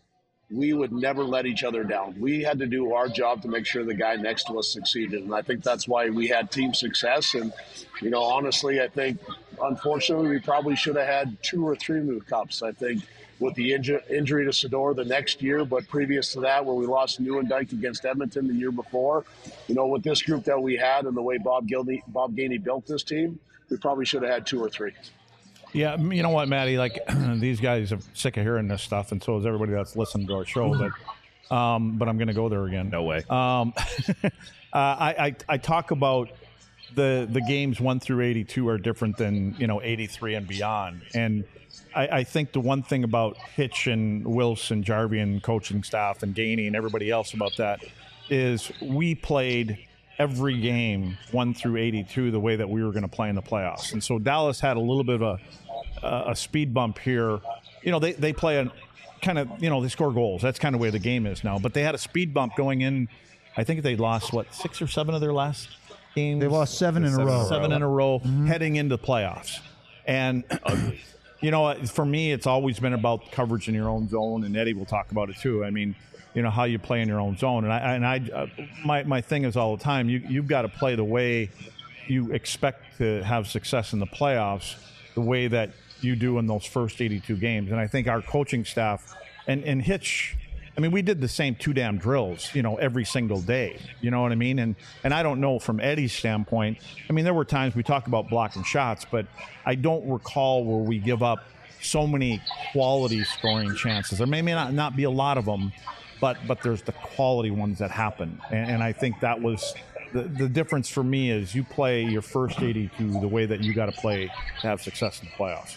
we would never let each other down. We had to do our job to make sure the guy next to us succeeded. And I think that's why we had team success. And, you know, honestly, I think, unfortunately, we probably should have had two or three new cups. I think with the inju- injury to Sador the next year, but previous to that, where we lost Nieuwendyk against Edmonton the year before, you know, with this group that we had and the way Bob Gainey, Bob Gainey built this team, we probably should have had two or three. Yeah, you know what, Maddie? Like, these guys are sick of hearing this stuff, and so is everybody that's listening to our show. But, um, but I'm going to go there again. No way. Um, uh, I, I I talk about the the games one through eighty-two are different than, you know, eighty-three and beyond. And I, I think the one thing about Hitch and Wilson, Jarvie and coaching staff and Gainey and everybody else about that is we played every game one through eighty-two the way that we were going to play in the playoffs. And so Dallas had a little bit of a, a speed bump here. You know, they, they play a kind of, you know, they score goals. That's kind of the way the game is now. But they had a speed bump going in. I think they lost, what, six or seven of their last games? They lost seven in a row. Seven in a row mm-hmm. heading into playoffs. And, you know, for me, it's always been about coverage in your own zone, and Eddie will talk about it too. I mean, you know, how you play in your own zone. And I, and I, uh, my, my thing is all the time, you, you've got to play the way you expect to have success in the playoffs, the way that you do in those first eighty-two games. And I think our coaching staff and, and Hitch, I mean, we did the same two damn drills, you know, every single day. You know what I mean? And, and I don't know from Eddie's standpoint, I mean, there were times we talked about blocking shots, but I don't recall where we give up so many quality scoring chances. There may, may not, not be a lot of them, But but there's the quality ones that happen. And, and I think that was the, the difference for me is you play your first eighty-two the way that you got to play to have success in the playoffs.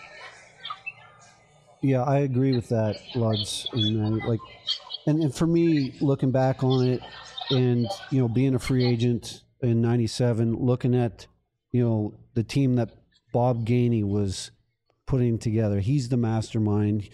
Yeah, I agree with that, Luds. And, uh, like, and, and for me, looking back on it and, you know, being a free agent in ninety-seven, looking at, you know, the team that Bob Gainey was putting together. He's the mastermind.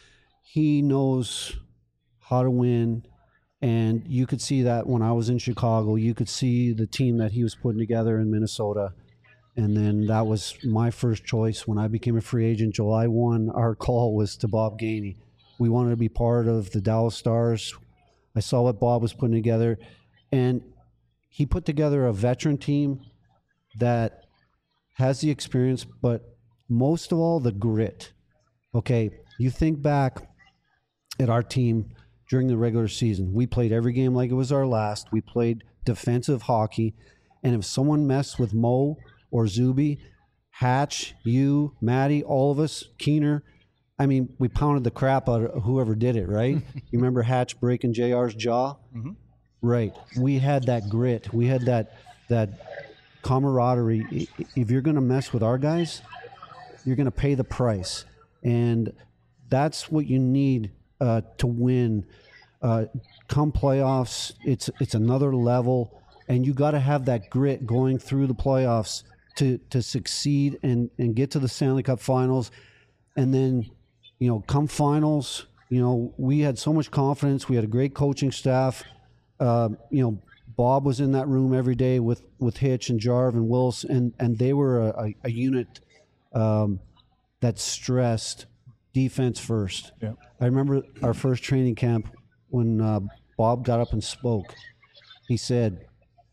He knows how to win. And you could see that when I was in Chicago. You could see the team that he was putting together in Minnesota. And then that was my first choice. When I became a free agent, July first, our call was to Bob Gainey. We wanted to be part of the Dallas Stars. I saw what Bob was putting together. And he put together a veteran team that has the experience, but most of all, the grit. Okay, you think back at our team during the regular season. We played every game like it was our last. We played defensive hockey. And if someone messed with Mo or Zuby, Hatch, you, Matty, all of us, Keener, I mean, we pounded the crap out of whoever did it, right? You remember Hatch breaking J R's jaw? Mm-hmm. Right. We had that grit. We had that that camaraderie. If you're going to mess with our guys, you're going to pay the price. And that's what you need uh, to win. Uh, come playoffs, it's it's another level, and you got to have that grit going through the playoffs to to succeed and, and get to the Stanley Cup Finals. And then, you know, come finals, you know, we had so much confidence. We had a great coaching staff. Uh, you know, Bob was in that room every day with, with Hitch and Jarv and Wills, and, and they were a, a, a unit um, that stressed defense first. Yeah. I remember our first training camp when uh, Bob got up and spoke. He said,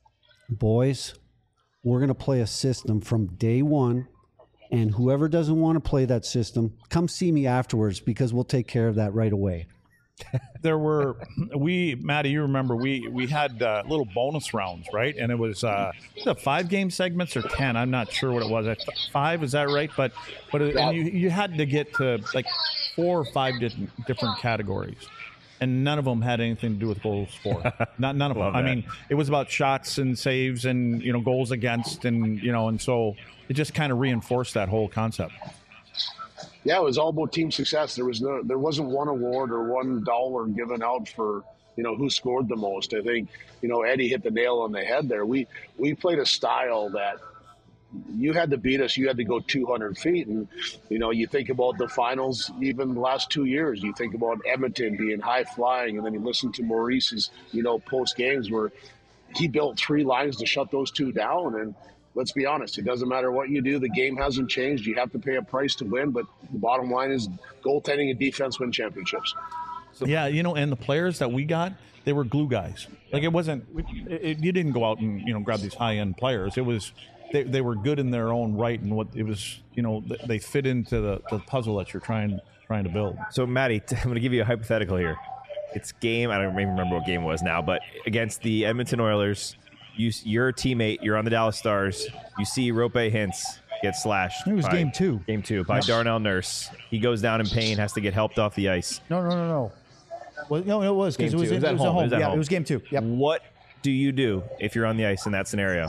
boys, we're going to play a system from day one, and whoever doesn't want to play that system, come see me afterwards because we'll take care of that right away. There were, we, Matty, you remember, we we had uh, little bonus rounds, right? And it was uh, the five game segments or ten. I'm not sure what it was. Five, is that right? But but it, and you you had to get to like four or five different different categories, and none of them had anything to do with goals for. Not none of them. Love I that. mean, it was about shots and saves and you know goals against and you know and so it just kind of reinforced that whole concept. Yeah, it was all about team success. There was no, there wasn't one award or one dollar given out for, you know, who scored the most. I think, you know, Eddie hit the nail on the head there. We we played a style that you had to beat us. You had to go two hundred feet. And, you know, you think about the finals, even the last two years, you think about Edmonton being high flying. And then you listen to Maurice's, you know, post games where he built three lines to shut those two down. And let's be honest, it doesn't matter what you do. The game hasn't changed. You have to pay a price to win, but the bottom line is goaltending and defense win championships. So, yeah, you know, and the players that we got, they were glue guys. Like it wasn't, it, it, you didn't go out and, you know, grab these high end players. It was, they, they were good in their own right. And what it was, you know, they fit into the, the puzzle that you're trying, trying to build. So, Matty, I'm going to give you a hypothetical here. It's game, I don't even remember what game it was now, but against the Edmonton Oilers, You, you're a teammate. You're on the Dallas Stars. You see Rope Hintz get slashed. It was by, game two. Game two by Yes. Darnell Nurse. He goes down in pain, has to get helped off the ice. No, no, no, no. Well, no, it was because Game it was, two. it It was at was at home. home. It was at yeah, home. it was game two. Yep. What do you do if you're on the ice in that scenario?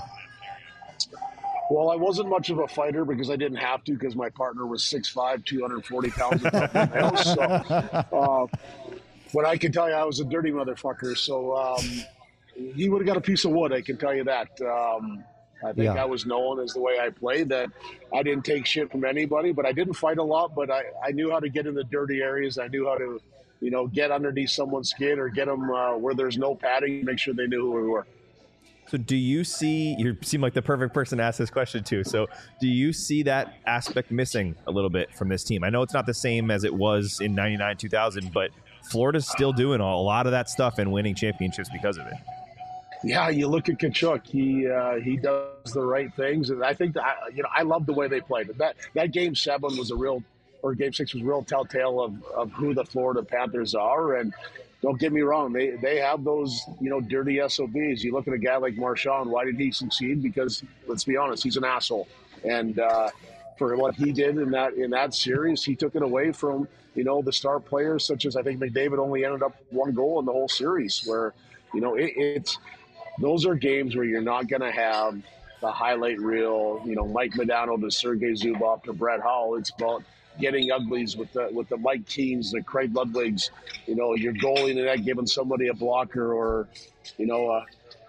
Well, I wasn't much of a fighter because I didn't have to because my partner was six five, two hundred forty pounds. So, uh, but I can tell you I was a dirty motherfucker. So um, he would have got a piece of wood, I can tell you that. Um, I think Yeah. I was known as the way I played, that I didn't take shit from anybody, but I didn't fight a lot, but I, I knew how to get in the dirty areas. I knew how to, you know, get underneath someone's skin or get them uh, where there's no padding, make sure they knew who we were. So do you see, you seem like the perfect person to ask this question to, so do you see that aspect missing a little bit from this team? I know it's not the same as it was in ninety-nine, two thousand, but Florida's still doing a lot of that stuff and winning championships because of it. Yeah, you look at Kachuk. He uh, he does the right things, and I think that you know I love the way they played. That that game seven was a real, or game six was a real telltale of, of who the Florida Panthers are. And don't get me wrong, they they have those you know dirty S O Bs. You look at a guy like Marchand. Why did he succeed? Because let's be honest, he's an asshole. And uh, for what he did in that in that series, he took it away from you know the star players such as I think McDavid only ended up one goal in the whole series. Where you know it, it's. Those are games where you're not going to have the highlight reel, you know, Mike Modano to Sergei Zubov to Brett Hull. It's about getting uglies with the with the Mike Keens, the Craig Ludwigs, you know, your goalie in the net giving somebody a blocker or, you know, uh,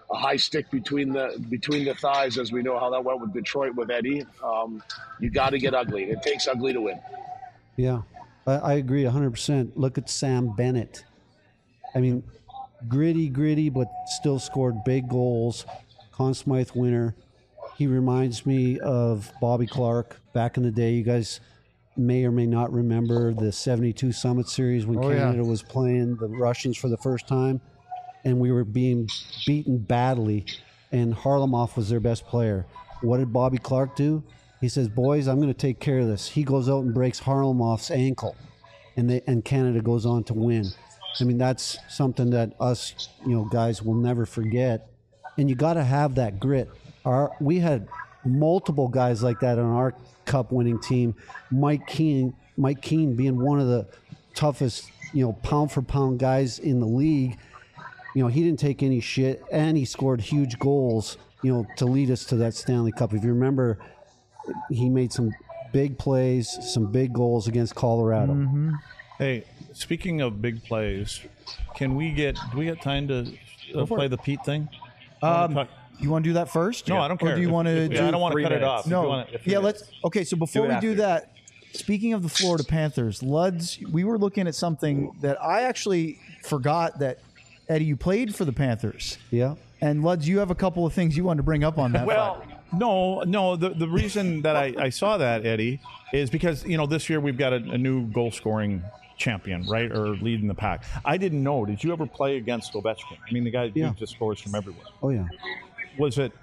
a high stick between the between the thighs, as we know how that went with Detroit with Eddie. Um, you got to get ugly. It takes ugly to win. Yeah, I, I agree one hundred percent. Look at Sam Bennett. I mean, gritty, gritty, but still scored big goals. Conn Smythe winner. He reminds me of Bobby Clark back in the day. You guys may or may not remember the seventy-two Summit Series when Oh, yeah. Canada was playing the Russians for the first time, and we were being beaten badly, and Harlamoff was their best player. What did Bobby Clark do? He says, boys, I'm going to take care of this. He goes out and breaks Harlamoff's ankle, and they and Canada goes on to win. I mean, that's something that us, you know, guys will never forget. And you got to have that grit. Our we had multiple guys like that on our Cup winning team. Mike Keane, Mike Keane being one of the toughest, you know, pound for pound guys in the league. You know, he didn't take any shit, and he scored huge goals, you know, to lead us to that Stanley Cup. If you remember, he made some big plays, some big goals against Colorado. Mm-hmm. Hey, speaking of big plays, can we get do we get time to uh, play the Pete thing? Um, Talk- you want to do that first? no, I don't care. Or do you If- want to if- do? I don't want to three cut it minutes. off. If you No. wanna- if Yeah, you- let's. Okay, so before Do it we do after. that, speaking of the Florida Panthers, Luds, we were looking at something that I actually forgot that Eddie, you played for the Panthers, Yeah. and Luds, you have a couple of things you wanted to bring up on that. Well, front. no, no. The the reason that I, I saw that, Eddie, is because you know this year we've got a, a new goal scoring champion, right, or leading the pack. I didn't know. Did you ever play against Ovechkin? I mean, the guy Yeah. who just scores from everywhere. Oh, yeah. Was it?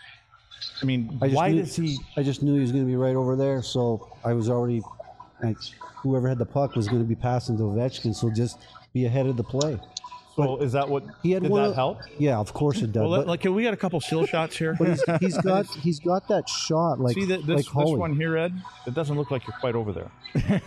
I mean, I just why knew, does he? I just knew he was going to be right over there, so I was already. Like, whoever had the puck was going to be passing to Ovechkin, so just be ahead of the play. So is that what? He had did one that of- help? Yeah, of course it does. Well, but like, can we get a couple still shots here? but he's, he's got he's got that shot like See that this like this Holy. one here, Ed? It doesn't look like you're quite over there.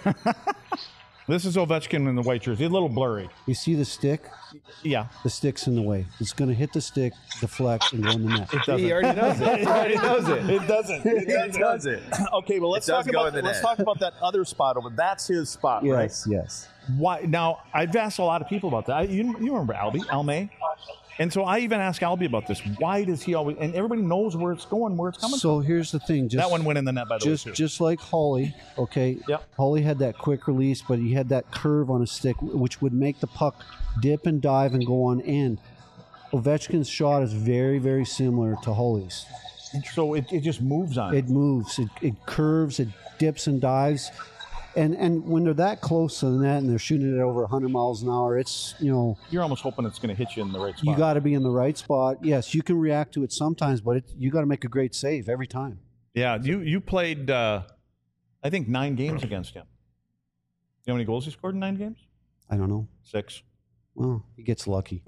This is Ovechkin in the white jersey. A little blurry. You see the stick? Yeah, The stick's in the way. It's going to hit the stick, deflect, and go in the net. it doesn't. He already knows it. He already knows it. It doesn't. It It does it. Okay, well let's It does talk go about in the let's net. talk about that other spot over. That's his spot, right? Yes, yes. Why? Now I've asked a lot of people about that. I, you, you remember Albie, Almay, and so I even asked Albie about this. Why does he always? And everybody knows where it's going, where it's coming So here's the thing. from. Just, That one went in the net, by the just way. Too. just like Holly, okay? Yep. Holly had that quick release, but he had that curve on his stick, which would make the puck dip and dive and go on end. Ovechkin's shot is very, very similar to Holly's. So it, it just moves on. It moves, it, it curves, it dips and dives. And and when they're that close to the net and they're shooting it over one hundred miles an hour, it's, you know, You're almost hoping it's going to hit you in the right spot. you got to be in the right spot. Yes, you can react to it sometimes, but it, you got to make a great save every time. Yeah, you you played, uh, I think, nine games against him. You know how many goals he scored in nine games? I don't know. Six. Well, he gets lucky.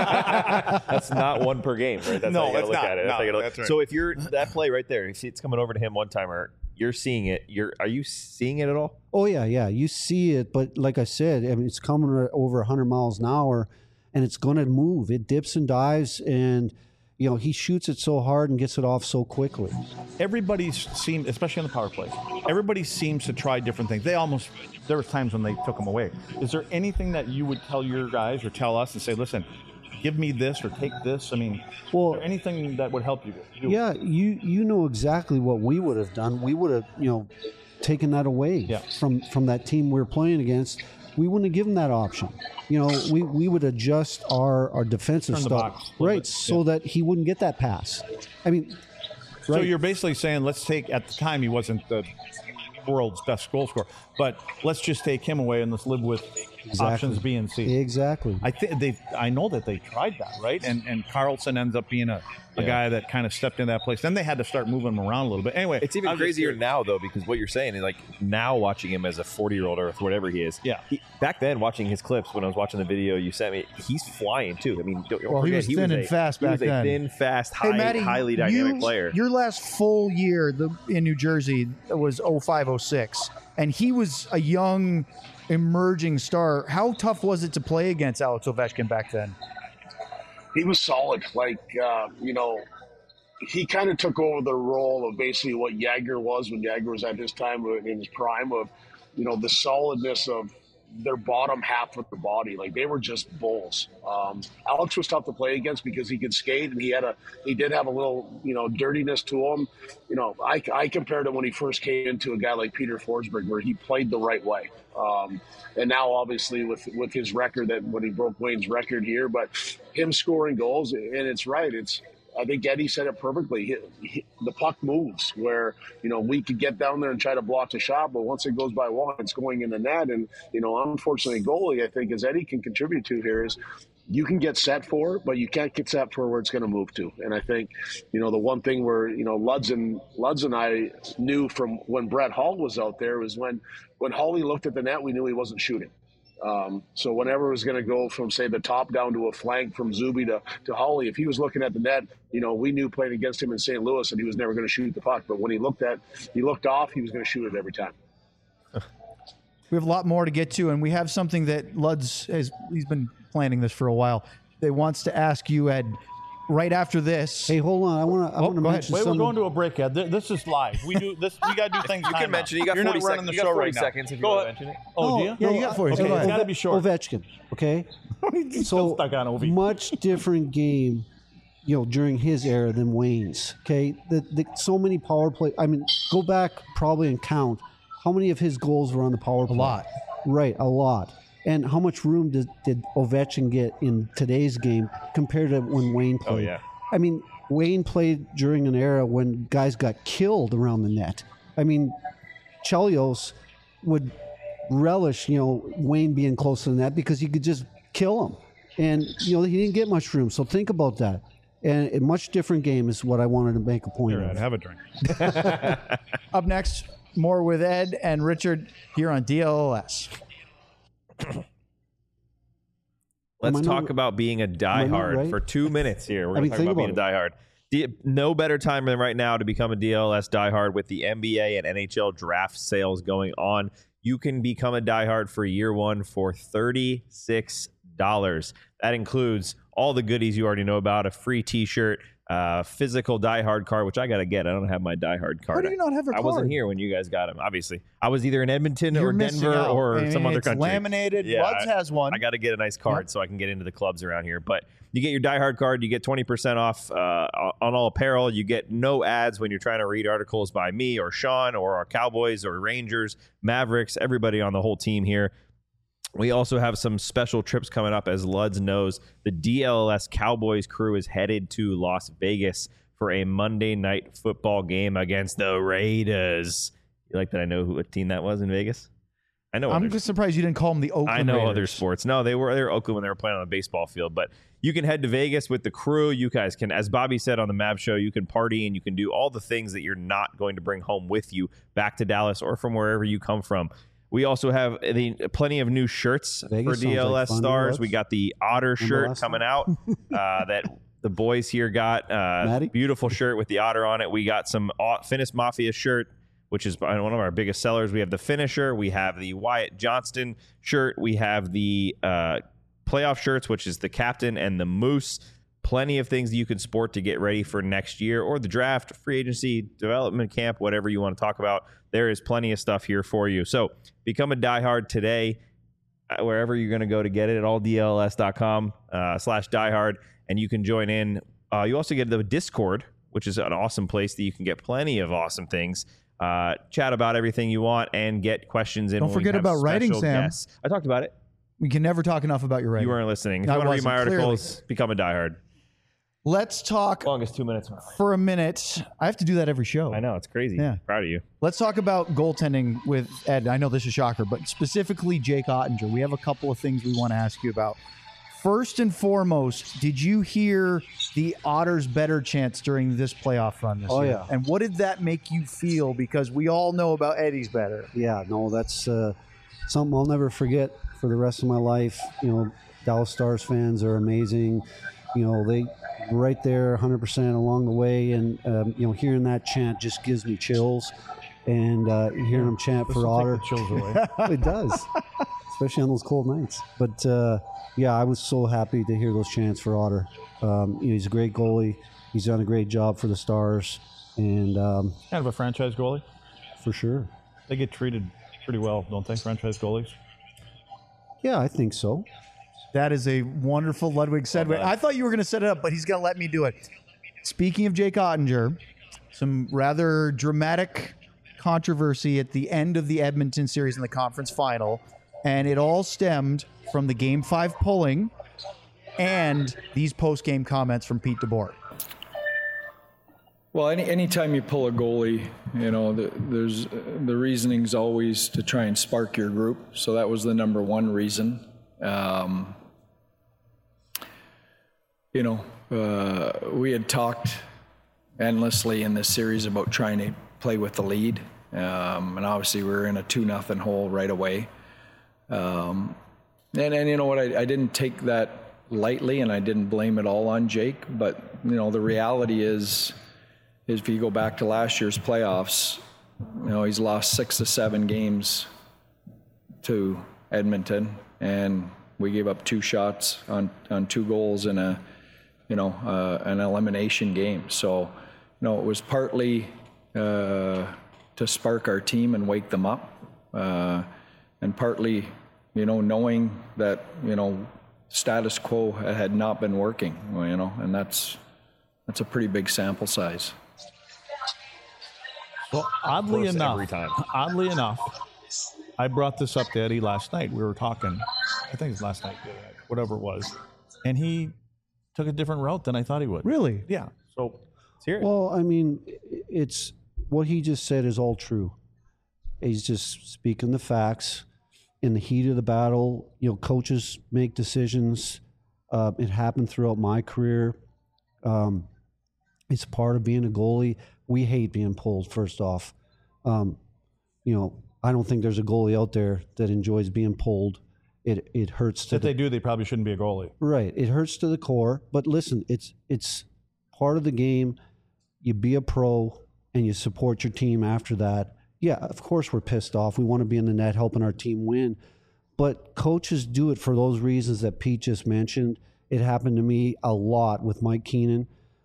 That's not one per game, right? That's No, how you gotta it's look not. at it. No, how you gotta- that's right. So if you're that play right there, you see it's coming over to him one timer, you're seeing it. You're are you seeing it at all? Oh yeah, yeah. You see it, but like I said, I mean, it's coming at over one hundred miles an hour, and it's going to move. It dips and dives, and you know he shoots it so hard and gets it off so quickly. Everybody seemed, especially on the power play, everybody seems to try different things. They almost, there was times when they took them away. Is there anything that you would tell your guys or tell us and say, listen, give me this or take this? I mean, Well, is there anything that would help you? do? Yeah, you you know exactly what we would have done. We would have you know taken that away Yeah. from from that team we were playing against. We wouldn't have given that option. You know, we, we would adjust our, our defensive Turn the stuff, box a little right, bit, so yeah. that he wouldn't get that pass. I mean, So right. you're basically saying, let's take, at the time he wasn't the world's best goal scorer, but let's just take him away and let's live with options B and C. Exactly. I think they. I know that they tried that, right? And and Carlson ends up being a, a Yeah. guy that kind of stepped in that place. Then they had to start moving him around a little bit. Anyway, It's even I'm just crazier curious. now though, because what you're saying is like now watching him as a forty year old or whatever he is. Yeah. He, back then, watching his clips when I was watching the video you sent me, he's flying too. I mean, don't, don't Well, he forget, was thin and a, fast he back was a then. thin, fast, high, Hey, Matty, highly dynamic you- player. Your last full year the, in New Jersey was oh five oh six, and he was a young, emerging star. How tough was it to play against Alex Ovechkin back then? He was solid. Like, uh, you know, he kind of took over the role of basically what Jagger was when Jagger was at his time, in his prime of, you know, the solidness of their bottom half of the body. Like they were just bulls. Um, Alex was tough to play against because he could skate and he had a he did have a little you know dirtiness to him. You know, I, I compared him when he first came into a guy like Peter Forsberg where he played the right way. Um, and now obviously with with his record that when he broke Wayne's record here, but him scoring goals and it's right. It's I think Eddie said it perfectly. He, he, the puck moves where, you know, we could get down there and try to block the shot, but once it goes by one, it's going in the net. And, you know, unfortunately, goalie, I think, as Eddie can contribute to here is you can get set for it, but you can't get set for where it's going to move to. And I think, you know, the one thing where, you know, Luds and, Luds and I knew from when Brett Hull was out there was when, when Holly looked at the net, we knew he wasn't shooting. Um, so whenever it was going to go from, say, the top down to a flank from Zuby to, to Holly, if he was looking at the net, you know, we knew playing against him in Saint Louis that he was never going to shoot the puck. But when he looked at, he looked off, he was going to shoot it every time. We have a lot more to get to, and we have something that Luds has, he's been planning this for a while. They wants to ask you, Ed, right after this. Hey, hold on. I want to. I Oh, want to go ahead. mention Wait, we're something. going to a break, Ed. Th- This is live. We do this. We got to do things. You time can mention it. out. You got You're forty not running seconds. the You got show forty right now. seconds if you Go want to ahead. mention it. Oh, No, do you? Yeah, you got forty Okay, seconds. it's got to be short. Ovechkin. Okay. He's So still stuck on Ovi. much different game, you know, during his era than Wayne's. Okay, the, the, so many power play. I mean, go back probably and count how many of his goals were on the power play. A lot. Right, a lot. And how much room did, did Ovechkin get in today's game compared to when Wayne played? Oh, yeah. I mean, Wayne played during an era when guys got killed around the net. I mean, Chelios would relish, you know, Wayne being close to the net because he could just kill him. And, you know, he didn't get much room. So think about that. And a much different game is what I wanted to make a point Here, of. Ed, have a drink. Up next, more with Ed and Richard here on D L L S. Let's Am I talk not- about being a I not diehard right? for two minutes here. We're I going mean, to talk think about being about a diehard. The- No better time than right now to become a D L S diehard with the N B A and N H L draft sales going on. You can become a diehard for year one for thirty-six dollars. That includes all the goodies you already know about, a free t-shirt, uh, physical diehard card, which I got to get. I don't have my diehard card. How do you not have a I card? wasn't here when you guys got them, obviously. I was either in Edmonton You're or missing Denver out. or I mean, some other it's country. laminated. Yeah, Luds I- has one. I got to get a nice card Yep. so I can get into the clubs around here. But you get your diehard card, you get twenty percent off uh, on all apparel. You get no ads when you're trying to read articles by me or Sean or our Cowboys or Rangers, Mavericks, everybody on the whole team here. We also have some special trips coming up. As Luds knows, the D L L S Cowboys crew is headed to Las Vegas for a Monday night football game against the Raiders. You like that I know who what team that was in Vegas? I know. I'm others. just surprised you didn't call them the Oakland I know Raiders. other sports. No, they were they were Oakland when they were playing on the baseball field. But you can head to Vegas with the crew. You guys can, as Bobby said on the Mav Show, you can party and you can do all the things that you're not going to bring home with you back to Dallas or from wherever you come from. We also have the, plenty of new shirts Vegas for D L S sounds like fun, stars. Alex. We got the Otter shirt last coming out uh, that the boys here got. Uh, Maddie? beautiful shirt with the Otter on it. We got some Au- Finnish Mafia shirt, which is one of our biggest sellers. We have the Finisher. We have the Wyatt Johnston shirt. We have the uh, playoff shirts, which is the Captain and the Moose. Plenty of things that you can sport to get ready for next year or the draft, free agency, development camp, whatever you want to talk about. There is plenty of stuff here for you. So become a diehard today, uh, wherever you're going to go to get it at all D L S dot com uh, slash diehard, and you can join in. Uh, you also get the Discord, which is an awesome place that you can get plenty of awesome things. Uh, chat about everything you want and get questions in. Don't when we forget have about writing, special Sam. guests. I talked about it. We can never talk enough about your writing. You weren't listening. If I you want to read my wasn't, clearly. articles, become a diehard. Let's talk Longest two minutes. for a minute. I have to do that every show. I know, it's crazy. Yeah. Proud of you. Let's talk about goaltending with Ed. I know this is a shocker, but specifically Jake Ottinger. We have a couple of things we want to ask you about. First and foremost, did you hear the Otters' better chance during this playoff run this Oh, year? yeah. And what did that make you feel? Because we all know about Eddie's better. Yeah, no, that's uh, something I'll never forget for the rest of my life. You know, Dallas Stars fans are amazing. You know, they right there one hundred percent along the way. And, um, you know, hearing that chant just gives me chills. And uh, hearing them chant This for will Otter. take the chills away. It does, especially on those cold nights. But, uh, yeah, I was so happy to hear those chants for Otter. Um, you know, he's a great goalie. He's done a great job for the Stars. And um, Kind of a franchise goalie. for sure. They get treated pretty well, don't they? Franchise goalies. Yeah, I think so. That is a wonderful Ludwig segue. I thought you were going to set it up, but he's going to let me do it. Speaking of Jake Ottinger, some rather dramatic controversy at the end of the Edmonton series in the conference final, and it all stemmed from the Game five polling and these post-game comments from Pete DeBoer. Well, any anytime you pull a goalie, you know, the, there's the reasoning's always to try and spark your group. So that was the number one reason. Um, you know, uh, we had talked endlessly in this series about trying to play with the lead, um, and obviously we were in a two nothing hole right away. Um, and and you know what, I, I didn't take that lightly, and I didn't blame it all on Jake. But you know, the reality is. is if you go back to last year's playoffs, you know, he's lost six to seven games to Edmonton, and we gave up two shots on, on two goals in a, you know, uh, an elimination game. So, you know, it was partly uh, to spark our team and wake them up, uh, and partly, you know, knowing that, you know, status quo had not been working, you know, and that's that's a pretty big sample size. Well, oddly enough, every time. oddly enough, I brought this up to Eddie last night. We were talking, I think it was last night, whatever it was, and he took a different route than I thought he would. Really? Yeah. So, let's hear it. Well, I mean, it's what he just said is all true. He's just speaking the facts. In the heat of the battle, you know, coaches make decisions. Uh, it happened throughout my career. Um, it's part of being a goalie. We hate being pulled, first off. Um, you know, I don't think there's a goalie out there that enjoys being pulled. It it hurts to if the, they do, they probably shouldn't be a goalie. Right. It hurts to the core. But listen, it's it's part of the game. You be a pro and you support your team after that. Yeah, of course we're pissed off. We want to be in the net helping our team win. But coaches do it for those reasons that Pete just mentioned. It happened to me a lot with Mike Keenan.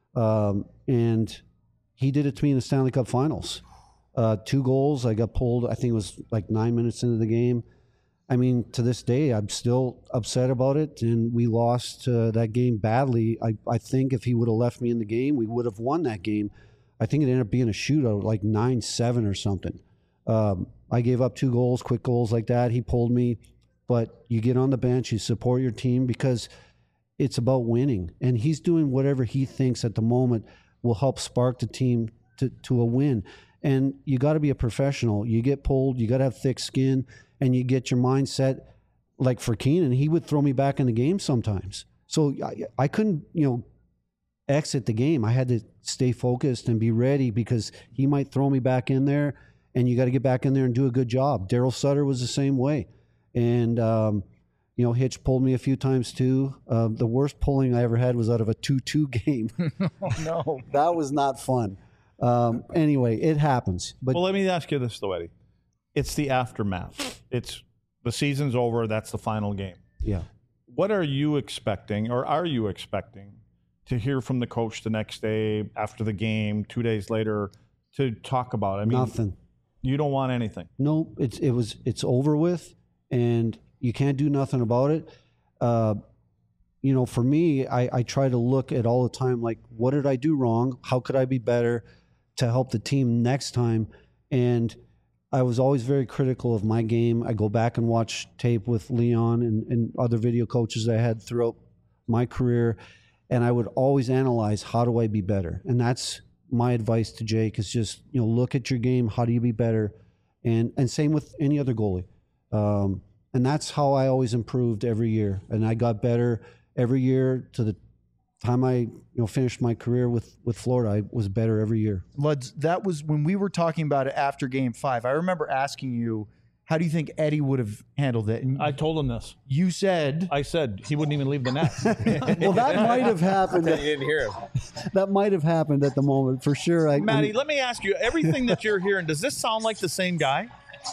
Um, and he did it to me in the Stanley Cup Finals. Uh, two goals. I got pulled, I think it was like nine minutes into the game. I mean, to this day, I'm still upset about it, and we lost uh, that game badly. I, I think if he would have left me in the game, we would have won that game. I think it ended up being a shootout, like nine seven or something. Um, I gave up two goals, quick goals like that. He pulled me. But you get on the bench, you support your team because it's about winning. And he's doing whatever he thinks at the moment will help spark the team to, to a win. And you got to be a professional. You get pulled, you got to have thick skin, and you get your mindset. Like for Keenan, he would throw me back in the game sometimes. So I, I couldn't, you know, exit the game. I had to stay focused and be ready because he might throw me back in there, and you got to get back in there and do a good job. Daryl Sutter was the same way. And, um, you know, Hitch pulled me a few times too. Uh, the worst pulling I ever had was out of a two two game. Oh, no. That was not fun. Um, anyway, it happens. But Well, let me ask you this, though, Eddie. It's the aftermath. It's the season's over. That's the final game. yeah, What are you expecting, or are you expecting, to hear from the coach the next day, after the game, two days later, to talk about? I mean, nothing. You don't want anything. No, it's it was it's over with, and you can't do nothing about it. Uh, you know, for me, I, I try to look at all the time, like, what did I do wrong? How could I be better to help the team next time? And I was always very critical of my game. I go back and watch tape with Leon and, and other video coaches I had throughout my career, and I would always analyze, how do I be better? And that's my advice to Jake, is just, you know, look at your game. How do you be better? And and same with any other goalie. Um, and that's how I always improved every year. And I got better every year to the time I, you know, finished my career with, with Florida. I was better every year. Luds, that was when we were talking about it after game five. I remember asking you, how do you think Eddie would have handled it? And I told him this. you said, I said he wouldn't even leave the net. Well, that might have happened. You didn't hear him. That might have happened at the moment for sure. I, Maddie, let me ask you, everything that you're hearing, does this sound like the same guy?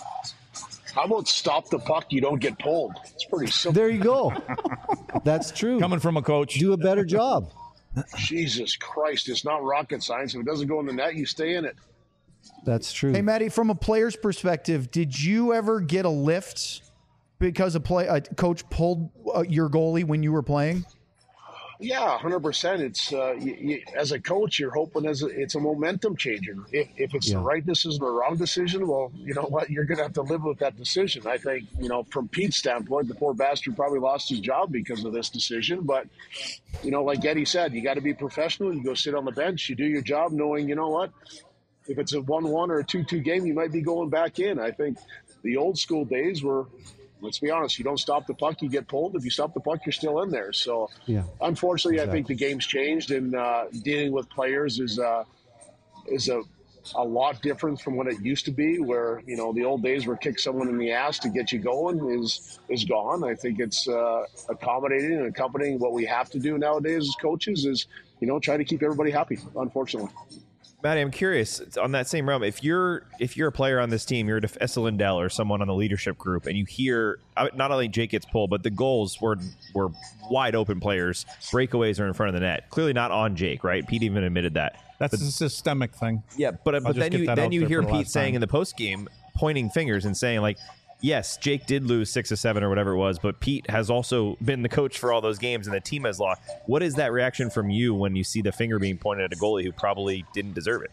How about stop the puck? You don't get pulled. It's pretty simple. There you go. That's true. Coming from a coach. Do a better job. Jesus Christ, it's not rocket science. If it doesn't go in the net, you stay in it. That's true. hey, Maddie, from a player's perspective, did you ever get a lift because a play a coach pulled uh, your goalie when you were playing? Yeah, one hundred percent. It's uh, you, you, as a coach, you're hoping as a, it's a momentum changer. If, if it's Yeah. the right decision or the wrong decision, well, you know what, you're going to have to live with that decision. I think, you know, from Pete's standpoint, the poor bastard probably lost his job because of this decision. But, you know, like Eddie said, you got to be professional. You go sit on the bench, you do your job knowing, you know what, if it's a one one or a two two game, you might be going back in. I think the old school days were, let's be honest, you don't stop the puck, you get pulled. If you stop the puck, you're still in there. So, Yeah. unfortunately, Exactly. I think the game's changed, and uh, dealing with players is uh, is a a lot different from what it used to be. Where you know the old days where kick someone in the ass to get you going is is gone. I think it's uh, accommodating and accompanying what we have to do nowadays as coaches is you know try to keep everybody happy. Unfortunately. Maddie, I'm curious on that same realm. If you're if you're a player on this team, you're a Essa Lindell or someone on the leadership group, and you hear uh, not only Jake gets pulled, but the goals were were wide open players. Breakaways are in front of the net. Clearly not on Jake, right? Pete even admitted that. That's a systemic thing. Yeah, but but just then get you that then out you there hear for the Pete last saying time. in the post game, pointing fingers and saying like, yes, Jake did lose six or seven or whatever it was, but Pete has also been the coach for all those games and the team has lost. What is that reaction from you when you see the finger being pointed at a goalie who probably didn't deserve it?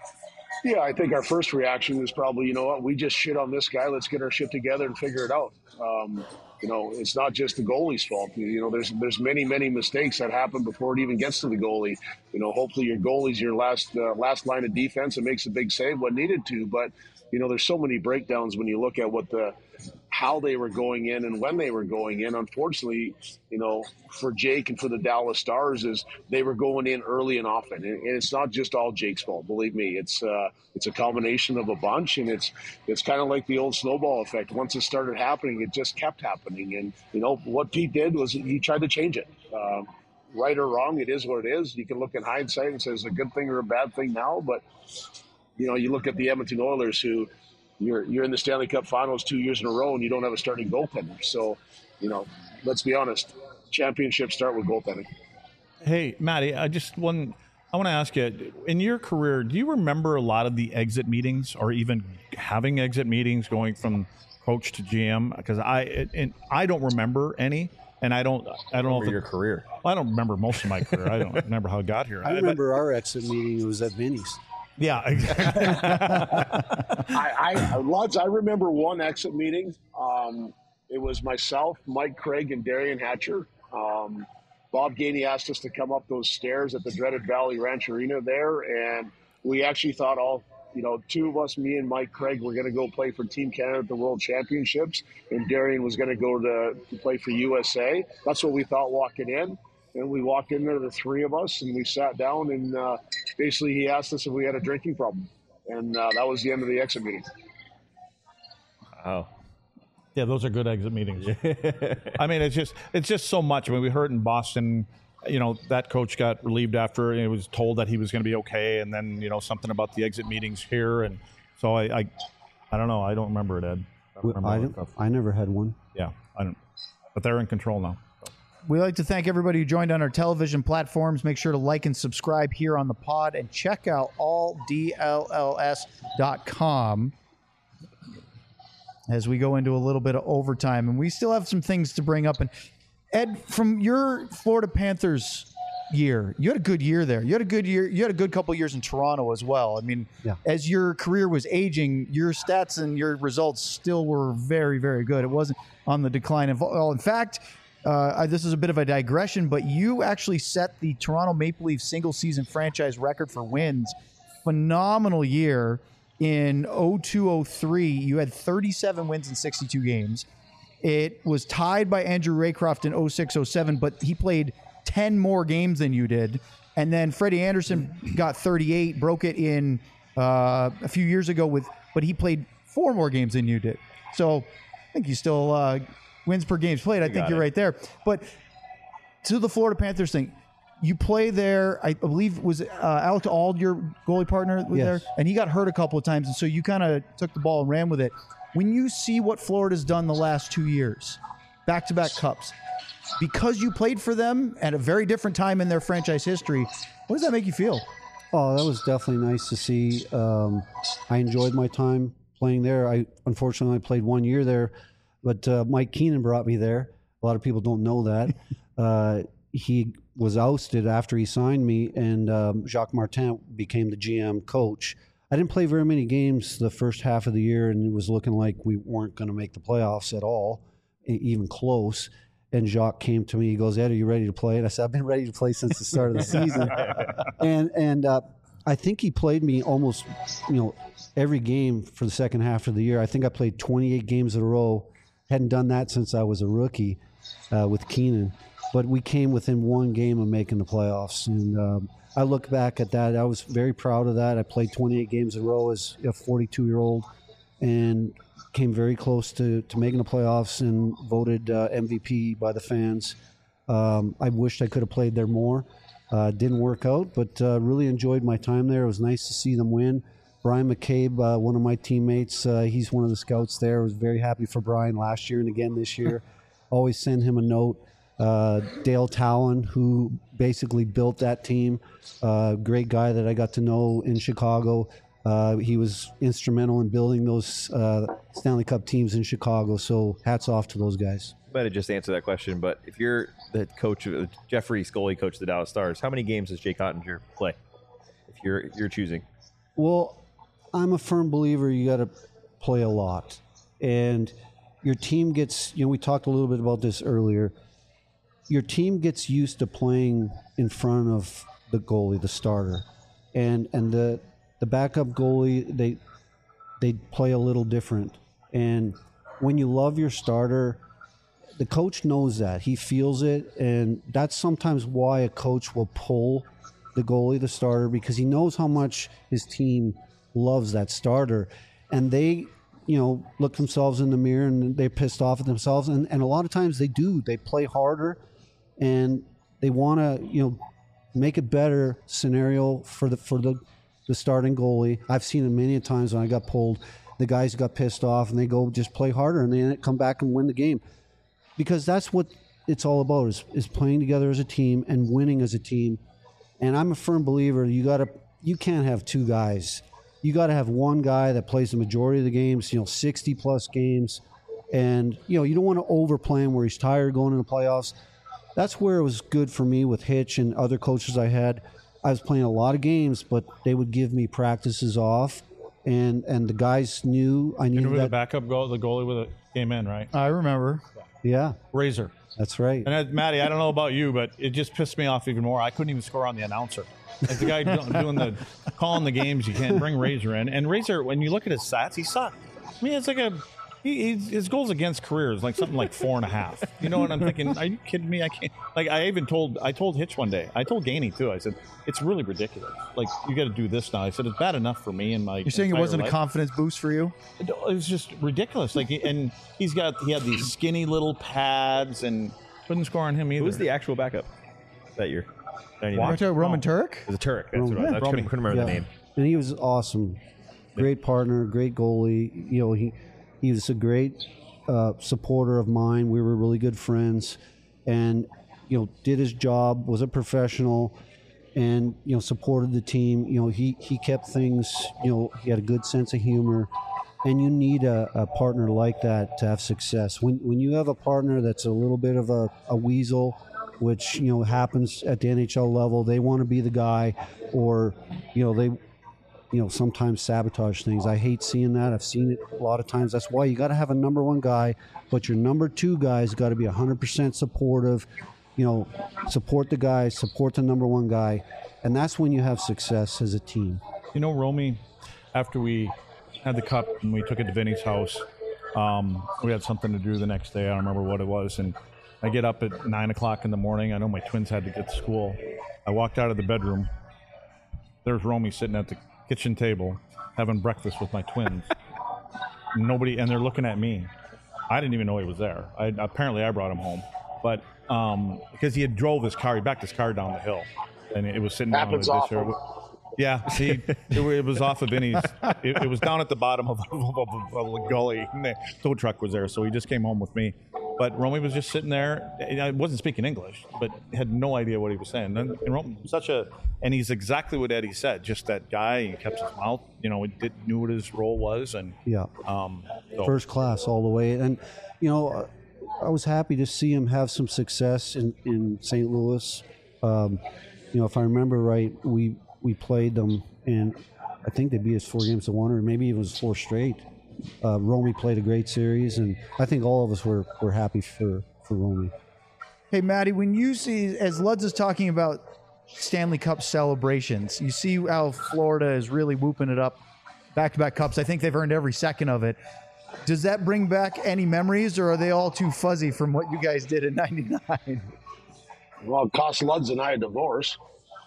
Yeah, I think our first reaction is probably, you know what, we just shit on this guy. Let's get our shit together and figure it out. Um, you know, it's not just the goalie's fault. You know, there's there's many, many mistakes that happen before it even gets to the goalie. You know, hopefully your goalie's your last uh, last line of defense and makes a big save when needed to. But, you know, there's so many breakdowns when you look at what the how they were going in and when they were going in. Unfortunately, you know, for Jake and for the Dallas Stars is they were going in early and often. And, and it's not just all Jake's fault, believe me. It's uh, it's a combination of a bunch, and it's it's kind of like the old snowball effect. Once it started happening, it just kept happening. And, you know, what Pete did was he tried to change it. Um, right or wrong, it is what it is. You can look in hindsight and say it's a good thing or a bad thing now, but, you know, you look at the Edmonton Oilers who – You're you're in the Stanley Cup Finals two years in a row, and you don't have a starting goaltender. So, you know, let's be honest. Championships start with goaltending. Hey, Maddie, I just one. I want to ask you, in your career, do you remember a lot of the exit meetings, or even having exit meetings, going from coach to G M? Because I it, and I don't remember any, and I don't I don't know if your it, career. well, I don't remember most of my career. I don't remember how I got here. I remember our exit meeting. It was at Vinny's. Yeah, exactly. I, I lots. I remember one exit meeting. Um, it was myself, Mike Craig, and Darian Hatcher. Um, Bob Gainey asked us to come up those stairs at the dreaded Valley Ranch Arena there, and we actually thought all, you know, two of us, me and Mike Craig, were going to go play for Team Canada at the World Championships, and Darian was going to go to, to play for U S A. That's what we thought walking in. And we walked in there, the three of us, and we sat down, and uh, basically he asked us if we had a drinking problem. And uh, that was the end of the exit meeting. Wow. Yeah, those are good exit meetings. I mean, it's just it's just so much. I mean, we heard in Boston, you know, that coach got relieved after and he was told that he was going to be okay, and then you know something about the exit meetings here, and so I, I, I don't know. I don't remember it, Ed. I don't remember I, all that don't, stuff. I never had one. Yeah, I don't. But they're in control now. We'd like to thank everybody who joined on our television platforms. Make sure to like and subscribe here on the pod, and check out all D L L S dot com as we go into a little bit of overtime. And we still have some things to bring up. And Ed, from your Florida Panthers year, you had a good year there. You had a good year. You had a good couple years in Toronto as well. I mean, Yeah. as your career was aging, your stats and your results still were very, very good. It wasn't on the decline. Of, well, in fact, Uh, this is a bit of a digression, but you actually set the Toronto Maple Leafs single-season franchise record for wins. Phenomenal year in oh two oh three. You had thirty-seven wins in sixty-two games. It was tied by Andrew Raycroft in oh six oh seven, but he played ten more games than you did. And then Freddie Anderson got thirty-eight, broke it in uh, a few years ago with, but he played four more games than you did. So I think you still uh, wins per games played. I think you're it. right there. But to the Florida Panthers thing, you play there. I believe was uh, Alex Auld your goalie partner was Yes. there, and he got hurt a couple of times, and so you kind of took the ball and ran with it. When you see what Florida's done the last two years, back-to-back cups, because you played for them at a very different time in their franchise history, what does that make you feel? Oh, that was definitely nice to see. Um, I enjoyed my time playing there. I unfortunately I played one year there. But uh, Mike Keenan brought me there. A lot of people don't know that. uh, he was ousted after he signed me, and um, Jacques Martin became the G M coach. I didn't play very many games the first half of the year, and it was looking like we weren't going to make the playoffs at all, even close. And Jacques came to me. He goes, "Ed, are you ready to play?" And I said, "I've been ready to play since the start of the season." and and uh, I think he played me almost, you know, every game for the second half of the year. I think I played twenty-eight games in a row. Hadn't done that since I was a rookie uh, with Keenan. But we came within one game of making the playoffs. And um, I look back at that. I was very proud of that. I played twenty-eight games in a row as a forty-two-year-old and came very close to, to making the playoffs and voted uh, M V P by the fans. Um, I wished I could have played there more. Uh, didn't work out, but uh, really enjoyed my time there. It was nice to see them win. Brian McCabe, uh, one of my teammates, uh, he's one of the scouts there. I was very happy for Brian last year and again this year. Always send him a note. Uh, Dale Talon, who basically built that team, uh, great guy that I got to know in Chicago. Uh, he was instrumental in building those uh, Stanley Cup teams in Chicago, so hats off to those guys. I might have just answered that question, but if you're the coach, of Jeffrey Scully, coach of the Dallas Stars, how many games does Jake Ottinger play if you're you're choosing? Well, I'm a firm believer you got to play a lot. And your team gets, you know, we talked a little bit about this earlier. Your team gets used to playing in front of the goalie, the starter. And and the the backup goalie, they they play a little different. And when you love your starter, the coach knows that. He feels it, and that's sometimes why a coach will pull the goalie, the starter, because he knows how much his team loves that starter. And they, you know, look themselves in the mirror and they're pissed off at themselves. And, and a lot of times they do. They play harder and they want to, you know, make a better scenario for the for the, the starting goalie. I've seen it many times when I got pulled. The guys got pissed off and they go just play harder and they come back and win the game. Because that's what it's all about, is, is playing together as a team and winning as a team. And I'm a firm believer you gotta you can't have two guys. You got to have one guy that plays the majority of the games, you know, sixty plus games. And, you know, you don't want to overplay him where he's tired going into the playoffs. That's where it was good for me with Hitch and other coaches I had. I was playing a lot of games, but they would give me practices off. And and the guys knew I knew that. that. The backup goal, the goalie with it came in, right? I remember. Yeah. Razor. That's right. And uh, Matty, I don't know about you, but it just pissed me off even more. I couldn't even score on the announcer. Like the guy doing the calling the games, you can't bring Razor in. And Razor, when you look at his stats, he sucked. I mean, it's like a he, he's, his goals against career is like something like four and a half. You know what I'm thinking? Are you kidding me? I can't. Like I even told I told Hitch one day. I told Gainey too. I said it's really ridiculous. Like you got to do this now. I said it's bad enough for me and my. You're saying it wasn't life. a confidence boost for you? It, it was just ridiculous. Like and he's got he had these skinny little pads and couldn't score on him either. Who was the actual backup that year? Watch out, Roman Turek? It was a Turek. That's what it was. Yeah. I couldn't, couldn't remember Yeah. the name. And he was awesome. Great partner, great goalie. You know, he he was a great uh, supporter of mine. We were really good friends, and you know, did his job. Was a professional, and you know, supported the team. You know, he he kept things. You know, he had a good sense of humor, and you need a, a partner like that to have success. When when you have a partner that's a little bit of a, a weasel, which you know happens at the N H L level, they want to be the guy, or you know they, you know sometimes sabotage things. I hate seeing that. I've seen it a lot of times. That's why you got to have a number one guy, but your number two guy's got to be one hundred percent supportive. You know, support the guy, support the number one guy, and that's when you have success as a team. You know, Romy, after we had the cup and we took it to Vinny's house, um, we had something to do the next day. I don't remember what it was, and I get up at nine o'clock in the morning. I know my twins had to get to school. I walked out of the bedroom. There's Romy sitting at the kitchen table having breakfast with my twins. Nobody, and they're looking at me. I didn't even know he was there. I, apparently, I brought him home, but um, because he had drove his car, he backed his car down the hill, and it was sitting Happens down with this often. Yeah, see, it, it was off of Vinny's. It, it was down at the bottom of, of, of, of a gully. And the tow truck was there, so he just came home with me. But Romy was just sitting there. I wasn't speaking English, but had no idea what he was saying. And, and Romy, such a, and he's exactly what Eddie said. Just that guy. He kept his mouth. You know, he did, knew what his role was, and Yeah. um, so, First class all the way. And, you know, I was happy to see him have some success in, in Saint Louis. Um, you know, if I remember right, we we played them, and I think they beat us four games to one, or maybe it was four straight. Uh, Romy played a great series, and I think all of us were, were happy for, for Romy. Hey, Maddie, when you see, as Luds is talking about Stanley Cup celebrations, you see how Florida is really whooping it up, back-to-back cups. I think they've earned every second of it. Does that bring back any memories, or are they all too fuzzy from what you guys did in ninety-nine? Well, it cost Luds and I a divorce.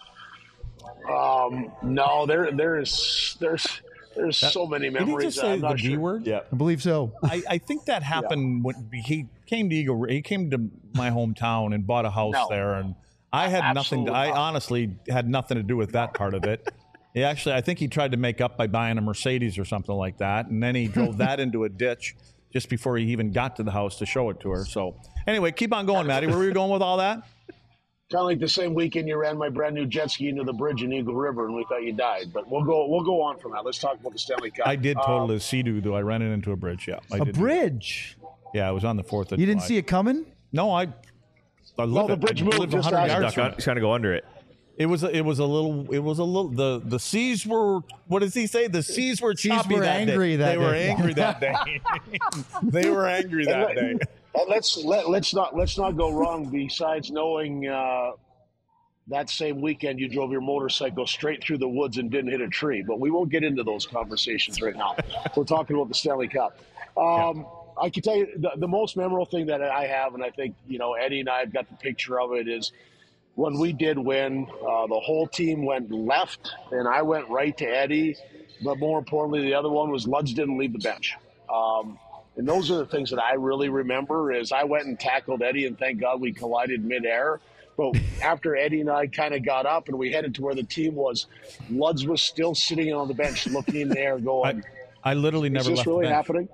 Um, no, there, there's, there's, there's so many did he memories. just say I'm the not D sure. word? Yeah. I believe so. I, I think that happened when he came to Eagle. He came to my hometown and bought a house No. there, and I had nothing. To, Absolutely I not. honestly had nothing to do with that part of it. He actually, I think he tried to make up by buying a Mercedes or something like that, and then he drove that into a ditch just before he even got to the house to show it to her. So anyway, keep on going, Maddie. Where were you going with all that? Kind of like the same weekend you ran my brand new jet ski into the bridge in Eagle River, and we thought you died. But we'll go, we'll go on from that. Let's talk about the Stanley Cup. I did total Um, as Sea-Doo, though. I ran it into a bridge. Yeah, I A did. bridge. Yeah, it was on the fourth of You didn't July. see it coming? No, I. I lived the it. bridge I moved lived just one hundred after. yards from it. He's trying to go under it. It was a, it was a little it was a little the the seas were what does he say the seas were Seas choppy were that angry day. that they were day. angry that day. They were angry that day. And let's let, let's not let's not go wrong. Besides knowing uh, that same weekend you drove your motorcycle straight through the woods and didn't hit a tree, but we won't get into those conversations right now. We're talking about the Stanley Cup. Um, I can tell you the, the most memorable thing that I have, and I think you know Eddie and I have got the picture of it, is when we did win. Uh, the whole team went left, and I went right to Eddie. But more importantly, the other one was Luds didn't leave the bench. Um, and those are the things that I really remember is I went and tackled Eddie, and thank God we collided midair. But after Eddie and I kind of got up and we headed to where the team was, Luds was still sitting on the bench looking there going, I literally is never this left really the bench. happening?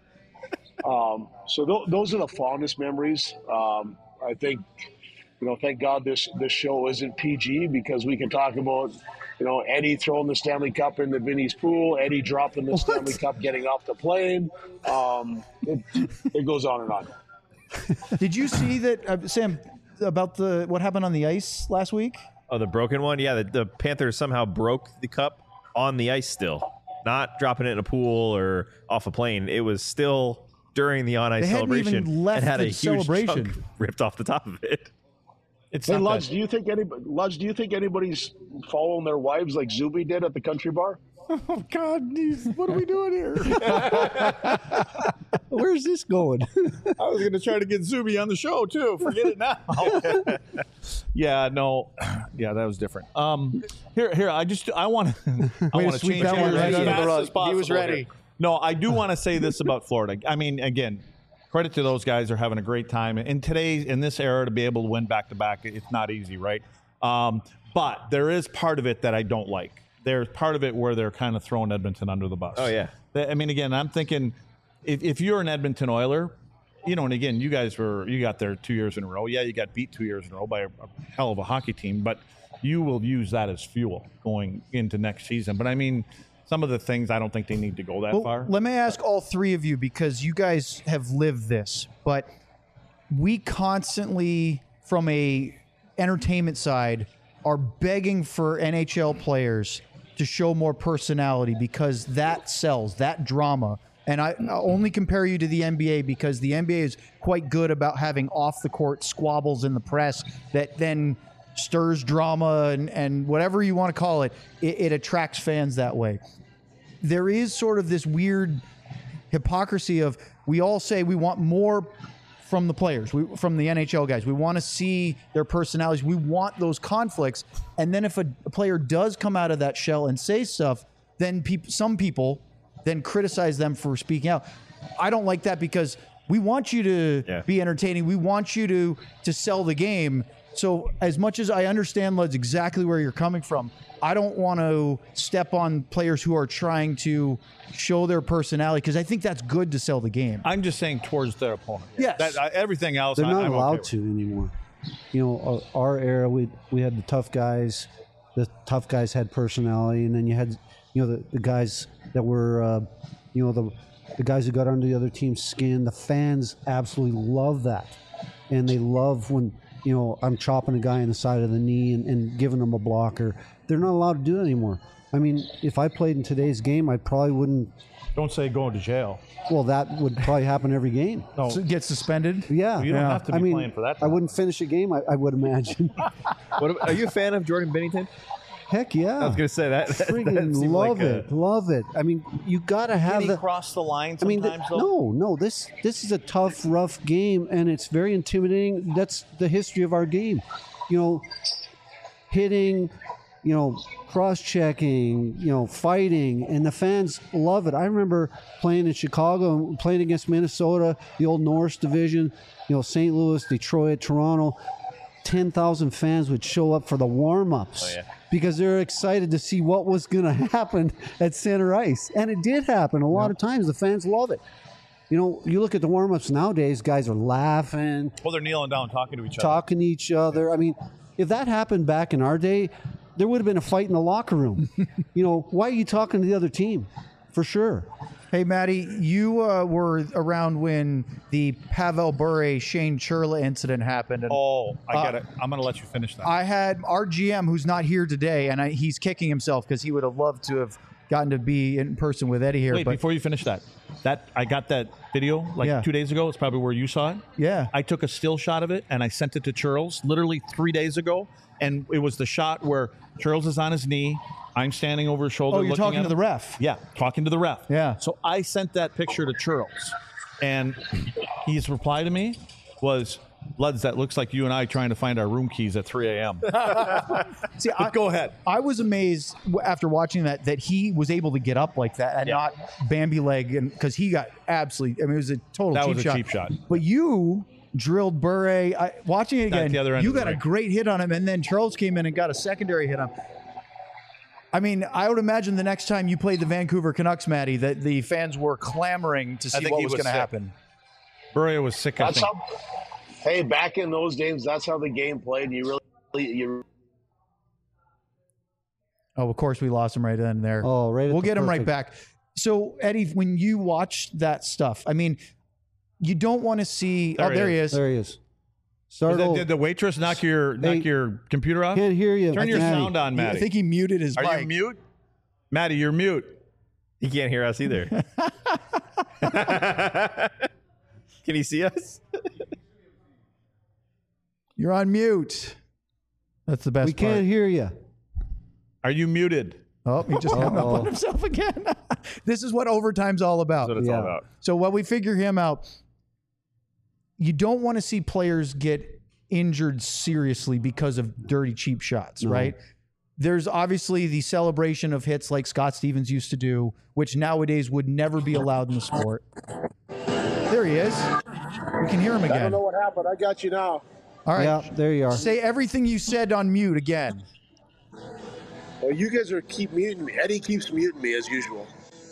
Um, so th- those are the fondest memories. Um, I think, you know, thank God this, this show isn't P G because we can talk about, you know, Eddie throwing the Stanley Cup into Vinny's pool, Eddie dropping the Stanley Cup, getting off the plane. Um, it, it goes on and on. Did you see that, uh, Sam, about the what happened on the ice last week? Oh, the broken one? Yeah, the, the Panthers somehow broke the cup on the ice still. Not dropping it in a pool or off a plane. It was still during the on-ice They hadn't celebration even left and had the a huge celebration. chunk ripped off the top of it. It's Hey, not Ludge, that- do you think anybody, Ludge, do you think anybody's following their wives like Zuby did at the country bar? Oh, God, geez, what are we doing here? Where's this going? I was going to try to get Zuby on the show too. Forget it now. Yeah, no, yeah, that was different. Um, here, here, I just, I want to, I Way to want to sweep change that one gears right as under the fast rug. as possible He was ready. here. No, I do want to say this about Florida. I mean, again, credit to those guys. They're having a great time in today's, in this era, to be able to win back to back. It's not easy, right? Um, but there is part of it that I don't like. There's part of it where they're kind of throwing Edmonton under the bus. Oh, yeah. I mean, again, I'm thinking if, if you're an Edmonton Oiler, you know, and again, you guys were, you got there two years in a row. Yeah, you got beat two years in a row by a, a hell of a hockey team, but you will use that as fuel going into next season. But I mean, some of the things I don't think they need to go that Well, far. let me ask all three of you because you guys have lived this, but we constantly, from a entertainment side, are begging for N H L players to show more personality because that sells, that drama. And I I'll only compare you to the N B A because the N B A is quite good about having off-the-court squabbles in the press that then stirs drama and, and whatever you want to call it, it, it attracts fans that way. There is sort of this weird hypocrisy of we all say we want more from the players, we, from the N H L guys. We want to see their personalities. We want those conflicts. And then if a, a player does come out of that shell and say stuff, then peop- some people then criticize them for speaking out. I don't like that because we want you to Yeah. be entertaining. We want you to to sell the game. So as much as I understand, Luds, exactly where you're coming from, I don't want to step on players who are trying to show their personality because I think that's good to sell the game. I'm just saying towards their opponent. Yes. That, uh, everything else, They're I, not I'm allowed okay to anymore. You know, uh, our era, we we had the tough guys. The tough guys had personality, and then you had, you know, the, the guys that were, uh, you know, the the guys who got under the other team's skin. The fans absolutely love that, and they love when, you know, I'm chopping a guy in the side of the knee and, and giving them a blocker. They're not allowed to do it anymore. I mean, if I played in today's game, I probably wouldn't. Don't say going to jail. Well, that would probably happen every game. No, So get suspended. Yeah, you don't Yeah. have to be I mean, playing for that. I wouldn't finish a game. I, I would imagine. What, are you a fan of Jordan Binnington? Heck yeah! I was going to say that. that, Friggin' that seemed love like a- it, love it. I mean, you gotta have Can he the. cross the line I mean, sometimes, the, though? no, no. This this is a tough, rough game, and it's very intimidating. That's the history of our game. You know, hitting, you know, cross-checking, you know, fighting, and the fans love it. I remember playing in Chicago and playing against Minnesota, the old Norris division. You know, Saint Louis, Detroit, Toronto. ten thousand fans would show up for the warm-ups Oh, yeah. because they're excited to see what was going to happen at center ice. And it did happen a lot of times. The fans love it. You know, you look at the warm-ups nowadays, guys are laughing, Well, they're kneeling down, talking to each other. talking to each other. I mean, if that happened back in our day, there would have been a fight in the locker room. You know, why are you talking to the other team? For sure. Hey, Maddie, you uh, were around when the Pavel Bure Shane Churla incident happened. And Oh, I Uh, got it. I'm going to let you finish that. I had our G M, who's not here today, and I, he's kicking himself because he would have loved to have gotten to be in person with Eddie here. Wait, but before you finish that, that I got that video like Yeah. two days ago. It's probably where you saw it. yeah, I took a still shot of it and I sent it to Charles literally three days ago. And it was the shot where Charles is on his knee. I'm standing over his shoulder. oh, you're looking talking at to the him. ref. Yeah, talking to the ref. Yeah. So I sent that picture to Charles, and his reply to me was, "Luds, that looks like you and I trying to find our room keys at three a.m." See, I, Go ahead. I was amazed w- after watching that that he was able to get up like that and Yeah. not Bambi leg, and because he got absolutely. I mean, it was a total That cheap was a shot. cheap shot. But you drilled Bure. I, watching it At again, the other end you of the got a rink. great hit on him, and then Charles came in and got a secondary hit on him. I mean, I would imagine the next time you played the Vancouver Canucks, Maddie, that the fans were clamoring to see think what he was, was going to sick. happen. Bure was sick. I That's think. how. Hey, back in those games, that's how the game played. You really, you Oh, of course, we lost him right then and there. Oh, right. at We'll the get him right perfect- back. So, Eddie, when you watch that stuff, I mean, you don't want to see. There oh, he there he is. is. There he is. Was Start that- over. did the waitress knock your knock Hey, your computer off? Can't hear you. Turn your Maddie. sound on, I Maddie. think he muted his Are mic. you mute? Maddie, you're mute. He can't hear us either. Can he see us? You're on mute. That's the best We part. can't hear you. Are you muted? Oh, he just hung up Uh-oh. on himself again. This is what overtime's all about. That's what it's Yeah. all about. So while we figure him out, you don't want to see players get injured seriously because of dirty, cheap shots, right? There's obviously the celebration of hits like Scott Stevens used to do, which nowadays would never be allowed in the sport. There he is. We can hear him I don't again. know what happened. I got you now. All right. Yeah, there you are. Say everything you said on mute again. Well, you guys are keep muting me. Eddie keeps muting me as usual.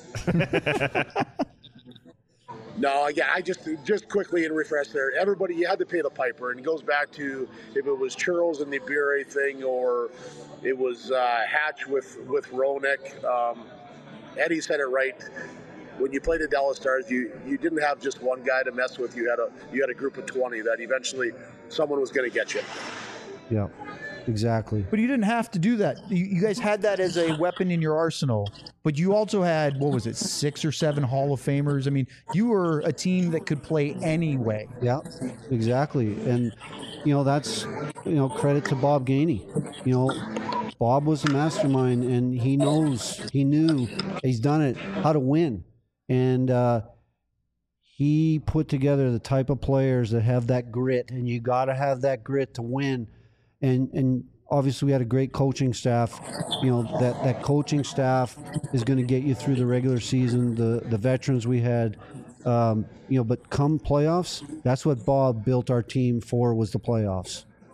No, yeah, I just just quickly and refresh there. Everybody, you had to pay the piper, and it goes back to if it was Churls and the Bure thing, or it was uh, Hatch with with Roenick. Um, Eddie said it right. When you played the Dallas Stars, you you didn't have just one guy to mess with. You had a you had a group of twenty that eventually someone was going to get you. Yeah, exactly. But you didn't have to do that. You, you guys had that as a weapon in your arsenal. But you also had, what was it, six or seven Hall of Famers? I mean, you were a team that could play anyway. Yeah, exactly. And, you know, that's, you know, credit to Bob Gainey. You know, Bob was a mastermind, and he knows, he knew, he's done it, how to win. And uh, he put together the type of players that have that grit, and you got to have that grit to win. And, and obviously we had a great coaching staff. You know, that, that coaching staff is going to get you through the regular season. The, the veterans we had, um, you know, but come playoffs, that's what Bob built our team for, was the playoffs.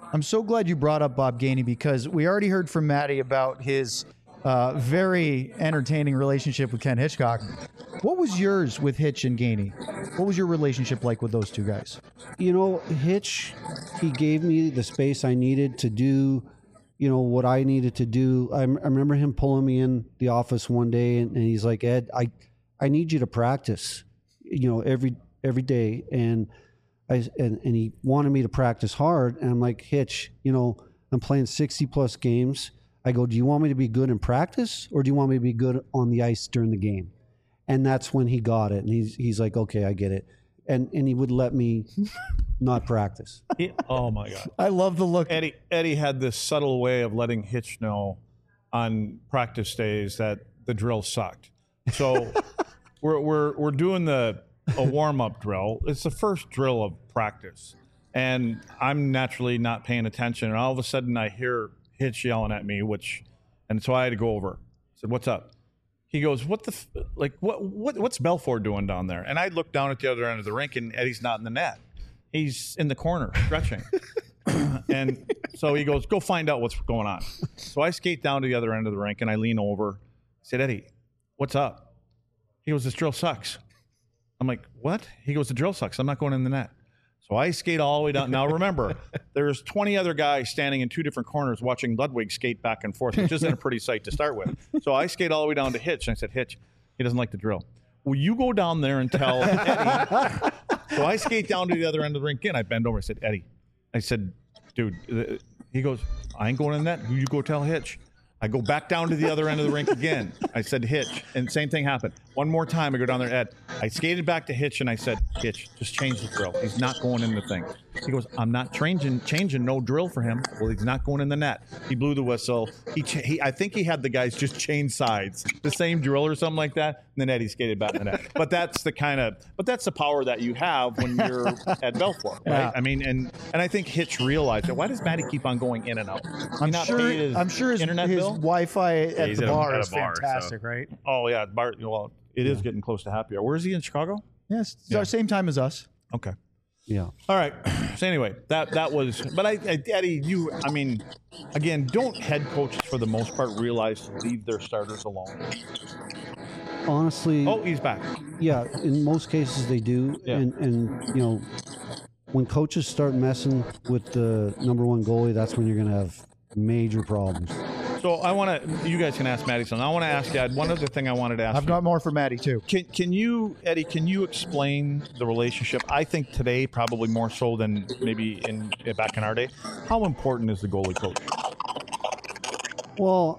I'm so glad you brought up Bob Gainey because we already heard from Matty about his uh, very entertaining relationship with Ken Hitchcock. What was yours with Hitch and Gainey? What was your relationship like with those two guys? You know, Hitch, he gave me the space I needed to do, you know, what I needed to do. I, I remember him pulling me in the office one day, and, and he's like, Ed, I, I need you to practice, you know, every every day. And I and, and he wanted me to practice hard. And I'm like, Hitch, you know, I'm playing sixty plus games. I go, do you want me to be good in practice, or do you want me to be good on the ice during the game? And that's when he got it. And he's he's like, okay, I get it. And and he would let me not practice. He, oh my God. I love the look. Eddie Eddie had this subtle way of letting Hitch know on practice days that the drill sucked. So we're we're we're doing the a warm up drill. It's the first drill of practice, and I'm naturally not paying attention. And all of a sudden, I hear Hitch yelling at me, which, and so I had to go over. I said, "What's up?" He goes, "What the f- like? What what what's Belfour doing down there?" And I look down at the other end of the rink, and Eddie's not in the net. He's in the corner stretching. And so he goes, "Go find out what's going on." So I skate down to the other end of the rink, and I lean over. I said, "Eddie, what's up?" He goes, "This drill sucks." I'm like, "What?" He goes, "The drill sucks. I'm not going in the net." So I skate all the way down. Now remember, there's twenty other guys standing in two different corners watching Ludwig skate back and forth, which isn't a pretty sight to start with. So I skate all the way down to Hitch, and I said, "Hitch, he doesn't like the drill. Will you go down there and tell Eddie?" So I skate down to the other end of the rink again. I bend over. I said, "Eddie," I said, "Dude," uh, he goes, "I ain't going in that. You go tell Hitch." I go back down to the other end of the rink again. I said, "Hitch," and same thing happened. One more time, I go down there, Ed. I skated back to Hitch, and I said, "Hitch, just change the drill. He's not going in the thing." He goes, "I'm not changing, changing no drill for him." Well, he's not going in the net. He blew the whistle. He, ch- he, I think he had the guys just change sides, the same drill or something like that. And then Eddie skated back in the net. But that's the kind of, but that's the power that you have when you're at Belfour, right? Yeah. I mean, and and I think Hitch realized that. Why does Matty keep on going in and out? I'm not sure. pay his I'm sure his, internet his bill? Wi-Fi at he's the at a- bar at a is bar, so- fantastic, right? Oh yeah, Bart. Well, it is getting close to happy hour. Where is he in Chicago? Yes, it's Yeah. our same time as us. Okay. Yeah. All right. So anyway, that that was. But I, I, Eddie, you. I mean, again, don't head coaches for the most part realize to leave their starters alone? Honestly, Oh, he's back. yeah, in most cases they do. Yeah. And, and, you know, when coaches start messing with the number one goalie, that's when you're going to have major problems. So I want to. You guys can ask Matty something. I want to ask you. I had one other thing I wanted to ask. I've you. got more for Matty too. Can can you, Eddie? Can you explain the relationship? I think today probably more so than maybe in back in our day. How important is the goalie coach? Well,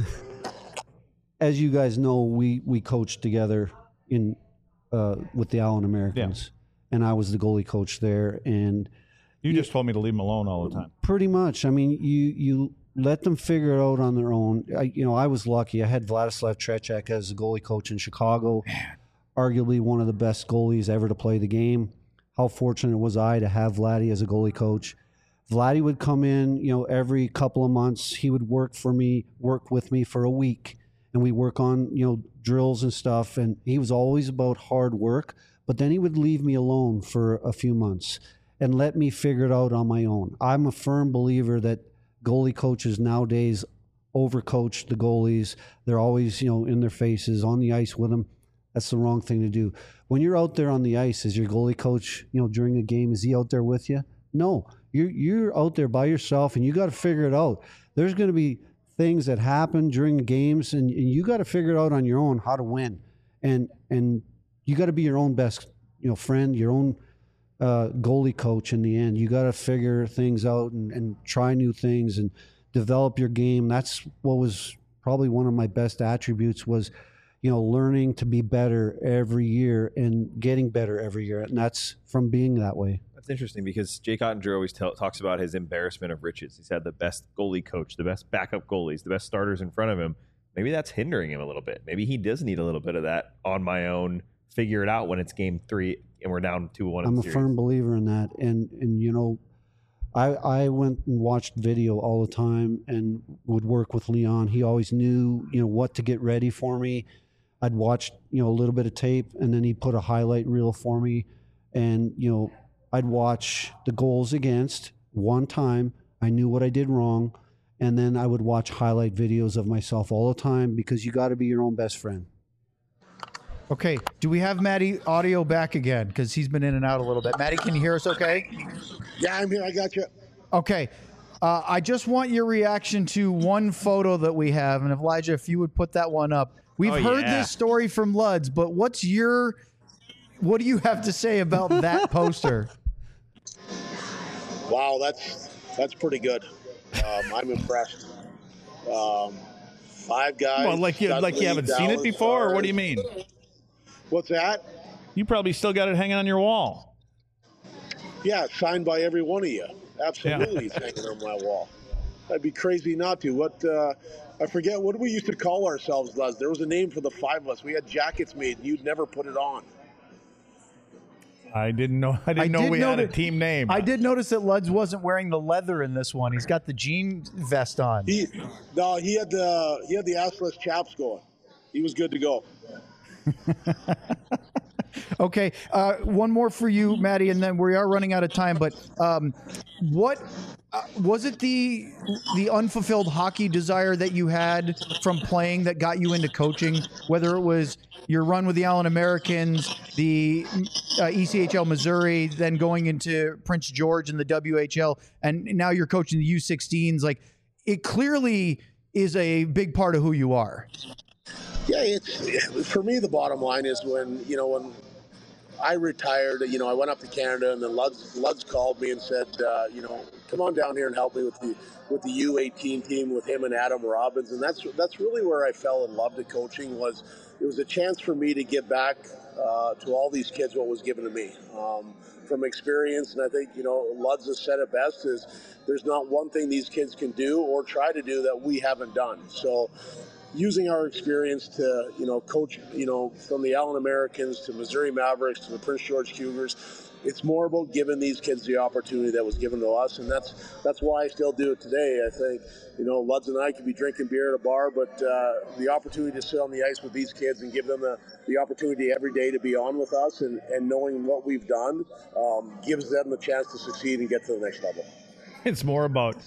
as you guys know, we, we coached together in uh, with the Allen Americans, and I was the goalie coach there. And You just told me to leave him alone all the time. pretty much, I mean, you you let them figure it out on their own. I, you know, I was lucky. I had Vladislav Tretiak as a goalie coach in Chicago, arguably one of the best goalies ever to play the game. How fortunate was I to have Vladdy as a goalie coach? Vladdy would come in, you know, every couple of months. He would work for me, work with me for a week, and we work on, you know, drills and stuff. And he was always about hard work, but then he would leave me alone for a few months and let me figure it out on my own. I'm a firm believer that goalie coaches nowadays overcoach the goalies. They're always, you know, in their faces, on the ice with them. That's the wrong thing to do. When you're out there on the ice, is your goalie coach, you know, during a game, is he out there with you? No, you're, you're out there by yourself, and you got to figure it out. There's going to be things that happen during the games, and, and you got to figure it out on your own how to win. And and you got to be your own best, you know, friend, your own uh, goalie coach in the end. You got to figure things out and, and try new things and develop your game. That's what was probably one of my best attributes was, you know, learning to be better every year and getting better every year. And that's from being that way. That's interesting because Jake Ottinger always tell, talks about his embarrassment of riches. He's had the best goalie coach, the best backup goalies, the best starters in front of him. Maybe that's hindering him a little bit. Maybe he does need a little bit of that on my own, figure it out when it's game three and we're down two one. I'm a series. firm believer in that. And, and you know, I, I went and watched video all the time and would work with Leon. He always knew, you know, what to get ready for me. I'd watch, you know, a little bit of tape, and then he'd put a highlight reel for me. And, you know, I'd watch the goals against one time. I I knew what I did wrong. And then I would watch highlight videos of myself all the time because you got to be your own best friend. Okay, do we have Matty audio back again? Because he's been in and out a little bit. Matty, can you hear us okay? Yeah, I'm here. I got you. Okay. Uh, I just want your reaction to one photo that we have. And Elijah, if you would put that one up. We've Oh, heard yeah. this story from Luds, but what's your, what do you have to say about that poster? Wow, that's that's pretty good. Um, I'm impressed. Um, five guys. Well, like you, like you haven't seen it before, or what do you mean? What's that? You probably still got it hanging on your wall. Yeah, signed by every one of you. Absolutely, it's hanging on my wall. I'd be crazy not to. What uh, I forget. What do we used to call ourselves, Les? There was a name for the five of us. We had jackets made, and you'd never put it on. I didn't know. I didn't I know did we know had a that- team name. I did notice that Luds wasn't wearing the leather in this one. He's got the jean vest on. He, no, he had the he had the assless chaps going. He was good to go. Okay, uh, one more for you, Maddie, and then we are running out of time. But um, what uh, was it the the unfulfilled hockey desire that you had from playing that got you into coaching? Whether it was your run with the Allen Americans, the uh, E C H L Missouri, then going into Prince George and the W H L, and now you're coaching the U sixteens. Like, it clearly is a big part of who you are. Yeah, it's for me. The bottom line is when you know when I retired. You know, I went up to Canada, and then Luds, Luds called me and said, uh, you know, come on down here and help me with the with the U eighteen team with him and Adam Robbins, and that's that's really where I fell in love to coaching. Was it was a chance for me to give back uh, to all these kids what was given to me um, from experience, and I think you know Luds has said it best: is there's not one thing these kids can do or try to do that we haven't done. So. Using our experience to, you know, coach, you know, from the Allen Americans to Missouri Mavericks to the Prince George Cougars, it's more about giving these kids the opportunity that was given to us, and that's that's why I still do it today. I think, you know, Luds and I could be drinking beer at a bar, but uh, the opportunity to sit on the ice with these kids and give them the, the opportunity every day to be on with us and, and knowing what we've done um, gives them the chance to succeed and get to the next level. It's more about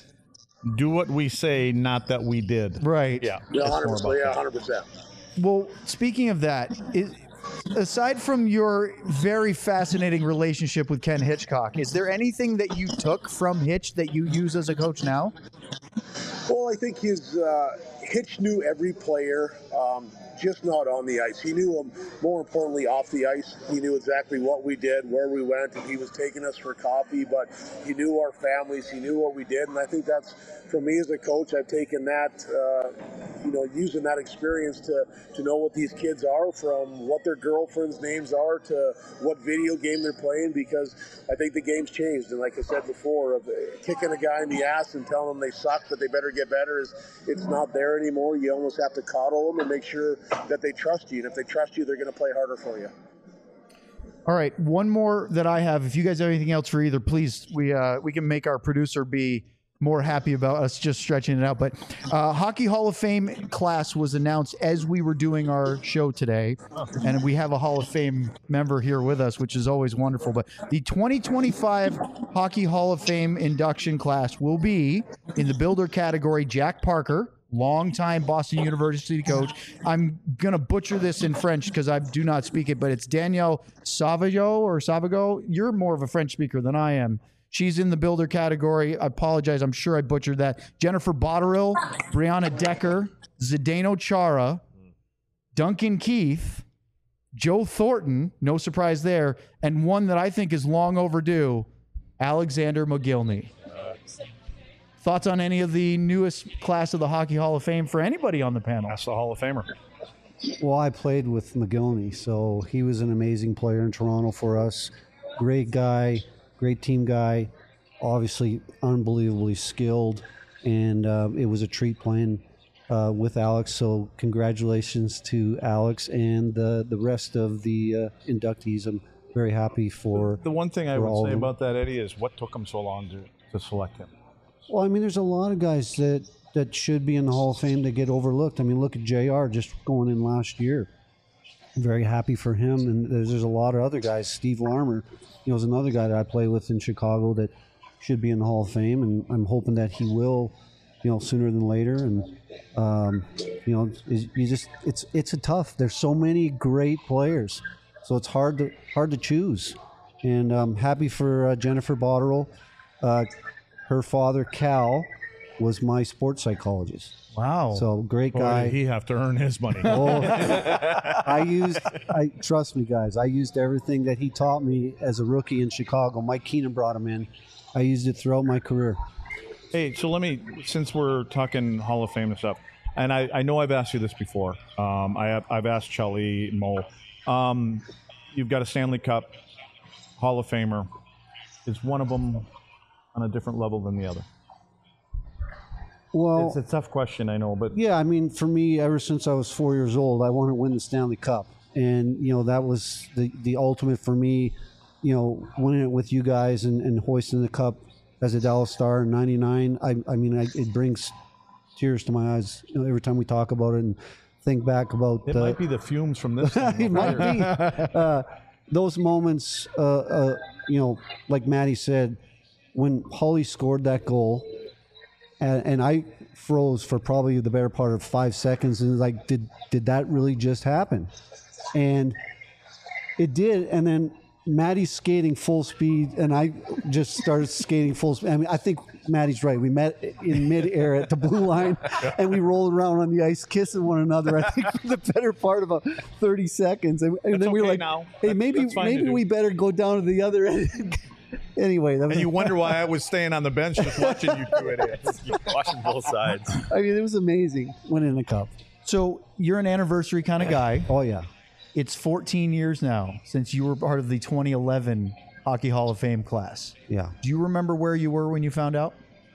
do what we say, not that we did. Right. Yeah. Yeah, it's one hundred more percent. about Yeah, that. one hundred percent. Well, speaking of that, is, aside from your very fascinating relationship with Ken Hitchcock, is there anything that you took from Hitch that you use as a coach now? Well, I think his uh, Hitch knew every player, um, just not on the ice. He knew them, more importantly, off the ice. He knew exactly what we did, where we went, and he was taking us for coffee, but he knew our families, he knew what we did, and I think that's, for me as a coach, I've taken that, uh, you know, using that experience to, to know what these kids are, from what their girlfriends' names are to what video game they're playing, because I think the game's changed, and like I said before, of kicking a guy in the ass and telling them they suck, but they better get better, is it's not there anymore. You almost have to coddle them and make sure that they trust you, and if they trust you, they're going to play harder for you. All right, one more that I have. If you guys have anything else for either, please, we uh, we can make our producer be more happy about us just stretching it out. But uh, Hockey Hall of Fame class was announced as we were doing our show today, and we have a Hall of Fame member here with us, which is always wonderful. But the twenty twenty-five Hockey Hall of Fame induction class will be in the builder category. Jack Parker, longtime Boston University coach. I'm going to butcher this in French because I do not speak it, but it's Danielle Savago or Savago. You're more of a French speaker than I am. She's in the builder category. I apologize. I'm sure I butchered that. Jennifer Botterill, Brianna Decker, Zdeno Chara, Duncan Keith, Joe Thornton, no surprise there, and one that I think is long overdue, Alexander Mogilny. Thoughts on any of the newest class of the Hockey Hall of Fame for anybody on the panel? That's the Hall of Famer. Well, I played with McGillney, so he was an amazing player in Toronto for us. Great guy, great team guy, obviously unbelievably skilled, and uh, it was a treat playing uh, with Alex. So congratulations to Alex and the, the rest of the uh, inductees. I'm very happy for The one thing I for all would say of them. about that, Eddie, is what took him so long to, to select him. Well, I mean, there's a lot of guys that, that should be in the Hall of Fame that get overlooked. I mean, look at J R just going in last year. I'm very happy for him. And there's, there's a lot of other guys. Steve Larmer, you know, is another guy that I play with in Chicago that should be in the Hall of Fame, and I'm hoping that he will, you know, sooner than later. And um, you know, you just it's it's a tough. There's so many great players, so it's hard to hard to choose. And I'm happy for uh, Jennifer Botterill. Uh, her father, Cal, was my sports psychologist. Wow. So great Boy, guy. did he have to earn his money. Oh, I used, I trust me, guys. I used everything that he taught me as a rookie in Chicago. Mike Keenan brought him in. I used it throughout my career. Hey, so let me, since we're talking Hall of Fame and stuff, and I, I know I've asked you this before. Um, I have, I've asked Chelly and Mo. Um, you've got a Stanley Cup Hall of Famer. Is one of them on a different level than the other? Well, It's a tough question, I know, but yeah, I mean, for me, ever since I was four years old, I wanted to win the Stanley Cup. And, you know, that was the, the ultimate for me, you know, winning it with you guys and, and hoisting the cup as a Dallas Star in ninety-nine. I, I mean, I, it brings tears to my eyes, you know, every time we talk about it and think back about it uh, might be the fumes from this thing. it might be. Uh, those moments, uh, uh, you know, like Maddie said, when Holly scored that goal, and, and I froze for probably the better part of five seconds, and like, did did that really just happen? And it did. And then Maddie's skating full speed, and I just started skating full speed. I mean, I think Maddie's right. We met in midair at the blue line, and we rolled around on the ice, kissing one another. I think for the better part of about thirty seconds, and, and then we were okay like, now. "Hey, That's- maybe that's fine to maybe do. we better go down to the other end." Anyway, that was, And you wonder why I was staying on the bench just watching you do it. Watching both sides. I mean, it was amazing winning the cup. So you're an anniversary kind of guy. Oh yeah. It's fourteen years now since you were part of the twenty eleven Hockey Hall of Fame class. Yeah. Do you remember where you were when you found out?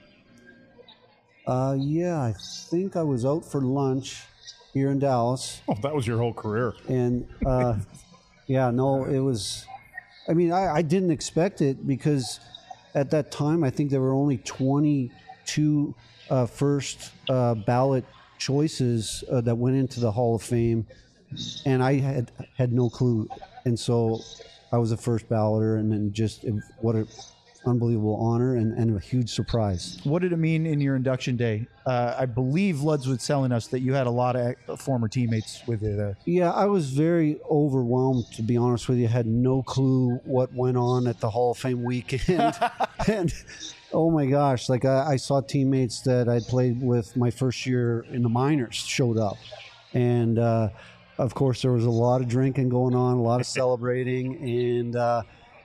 Uh, yeah, I think I was out for lunch here in Dallas. Oh, that was your whole career. And uh, yeah, no, it was. I mean, I, I didn't expect it because at that time I think there were only twenty-two uh, first uh, ballot choices uh, that went into the Hall of Fame, and I had had no clue. And so I was a first balloter, and then just it, what an unbelievable honor and, and a huge surprise. What did it mean in your induction day? Uh, I believe Luds was telling us that you had a lot of former teammates with you there. Yeah, I was very overwhelmed, to be honest with you. I had no clue what went on at the Hall of Fame weekend. And oh my gosh, like I, I saw teammates that I'd played with my first year in the minors showed up. And uh, of course, there was a lot of drinking going on, a lot of celebrating. And uh,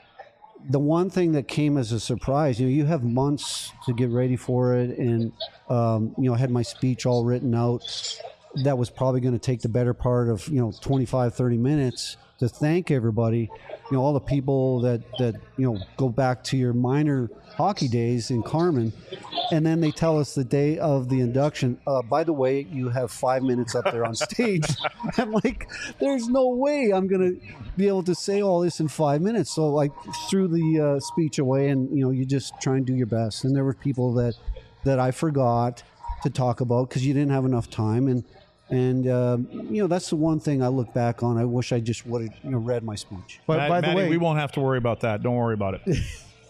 the one thing that came as a surprise, you know, you have months to get ready for it. And, um, you know, I had my speech all written out. That was probably going to take the better part of, you know, twenty-five, thirty minutes to thank everybody, you know, all the people that, that, you know, go back to your minor hockey days in Carmen. And then they tell us the day of the induction, uh, by the way, you have five minutes up there on stage. I'm like, there's no way I'm going to be able to say all this in five minutes. So I threw the uh, speech away, and, you know, you just try and do your best. And there were people that, that I forgot to talk about because you didn't have enough time. And, And, uh, you know, that's the one thing I look back on. I wish I just would have, you know, read my speech. But Matt, by the Matty, way, we won't have to worry about that. Don't worry about it.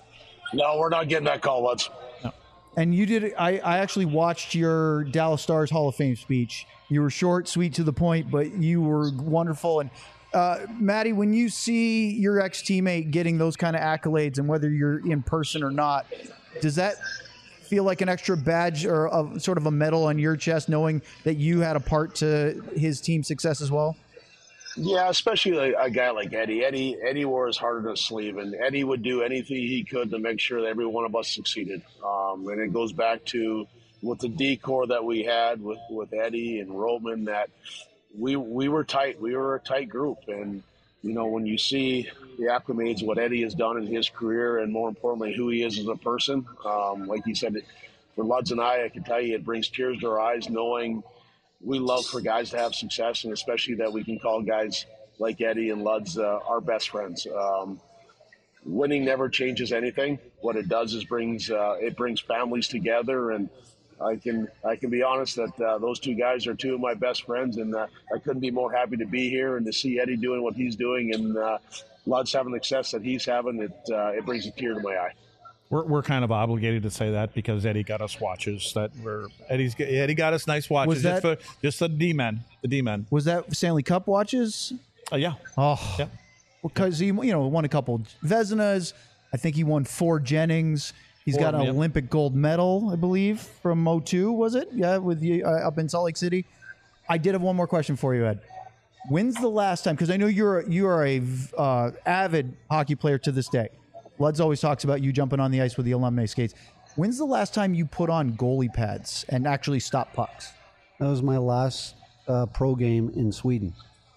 No, we're not getting that call, Luds. and you did. I, I actually watched your Dallas Stars Hall of Fame speech. You were short, sweet, to the point, but you were wonderful. And uh, Maddie, when you see your ex teammate getting those kind of accolades, and whether you're in person or not, does that feel like an extra badge or a, sort of a medal on your chest, knowing that you had a part to his team's success as well? Yeah, especially a, a guy like Eddie. Eddie Eddie wore his heart on his sleeve, and Eddie would do anything he could to make sure that every one of us succeeded. Um, and it goes back to with the decor that we had with, with Eddie and Roman, that we we were tight. We were a tight group. And, you know, when you see the acclimates, what Eddie has done in his career, and more importantly, who he is as a person, um, like he said, for Luds and I, I can tell you it brings tears to our eyes knowing we love for guys to have success, and especially that we can call guys like Eddie and Luds uh, our best friends. Um, winning never changes anything. What it does is brings uh, it brings families together, and I can I can be honest that uh, those two guys are two of my best friends, and uh, I couldn't be more happy to be here and to see Eddie doing what he's doing, and uh, Luds having the success that he's having. It uh, it brings a tear to my eye. We're, we're kind of obligated to say that because Eddie got us watches that were Eddie's Eddie got us nice watches Was that- just for just the D-men, the D-men. Was that Stanley Cup watches? Uh, yeah. Oh, Yeah. because he you know won a couple Vezinas. I think he won four Jennings. He's got an Four, yeah. Olympic gold medal, I believe, from oh two, was it? Yeah, with you uh, up in Salt Lake City. I did have one more question for you, Ed. When's the last time? Because I know you're you are a uh, avid hockey player to this day. Luds always talks about you jumping on the ice with the alumni skates. When's the last time you put on goalie pads and actually stop pucks? That was my last uh, pro game in Sweden,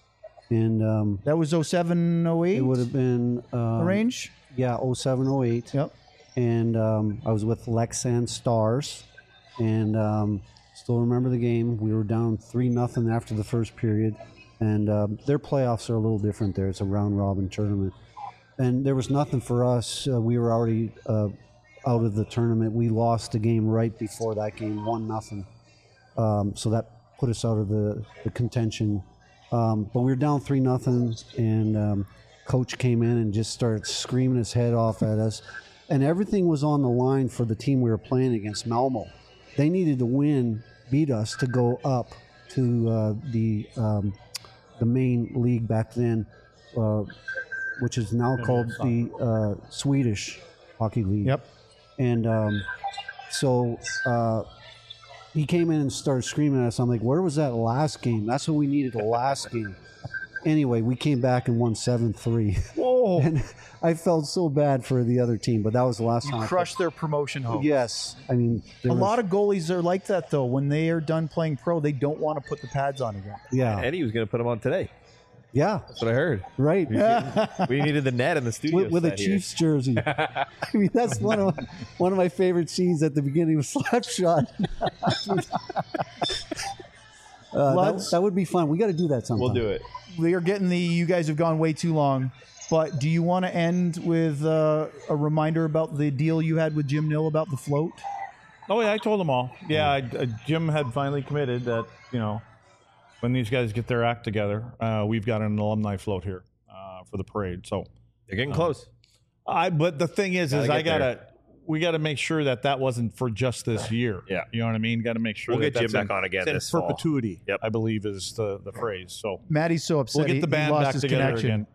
and um, That was oh seven, oh eight? it would have been um, range? yeah, oh seven, oh eight. Yep. And um, I was with Lexan Stars, and um, still remember the game. We were down three nothing after the first period, and um, their playoffs are a little different there. It's a round robin tournament, and there was nothing for us. Uh, we were already uh, out of the tournament. We lost the game right before that game, one nothing. Um, so that put us out of the, the contention. Um, but we were down three nothing, and um, coach came in and just started screaming his head off at us. And everything was on the line for the team we were playing against, Malmo. They needed to win, beat us to go up to uh, the um, the main league back then, uh, which is now called the uh, Swedish Hockey League. Yep. And um, so uh, he came in and started screaming at us. I'm like, where was that last game? That's what we needed, the last game. Anyway, we came back and won seven three. Whoa. And I felt so bad for the other team, but that was the last time. You crushed their promotion hope. Yes. I mean, A lot of goalies are like that, though. When they are done playing pro, they don't want to put the pads on again. yeah. Eddie was going to put them on today. Yeah. That's what I heard. Right. We needed the net in the studio. With, with a set here. Chiefs jersey. I mean, that's one of my, one of my favorite scenes at the beginning of Slapshot. uh, that, Luds? that would be fun. We got to do that sometime. We'll do it. We are getting the, you guys have gone way too long. But do you want to end with uh, a reminder about the deal you had with Jim Nill about the float? Oh yeah, I told them all. Yeah, I, uh, Jim had finally committed that, you know, when these guys get their act together, uh, we've got an alumni float here uh, for the parade. So They're getting close. I, but the thing is, Gotta is I get gotta, we gotta make sure that that wasn't for just this year. Yeah. You know what I mean? Got to make sure We'll that get Jim that's back in, on again it's in this fall. perpetuity. Yep. I believe is the, the phrase. So Maddie's so upset. we'll get he- the he band lost back his together connection. again.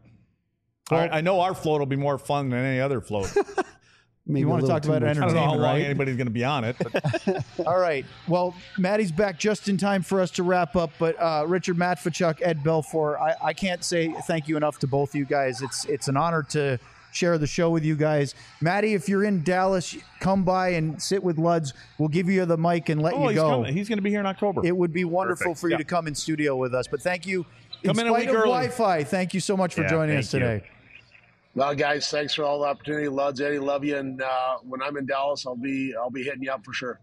All right, I know our float will be more fun than any other float. Maybe You a wanna little talk too about much. I don't know how Entertainment, long right? anybody's going to be on it. But All right. Well, Maddie's back just in time for us to wrap up. But uh, Richard Matvichuk, Ed Belfour, I, I can't say thank you enough to both of you guys. It's it's an honor to share the show with you guys. Maddie, if you're in Dallas, come by and sit with Luds. We'll give you the mic and let oh, you he's go. coming. He's going to be here in October. It would be wonderful Perfect. for you Yeah. to come in studio with us. But thank you. Come in a spite week of early. Wi-Fi, thank you so much for Yeah, joining thank us today. Well, guys, thanks for all the opportunity. Luds, Eddie, love you. And uh, when I'm in Dallas, I'll be I'll be hitting you up for sure.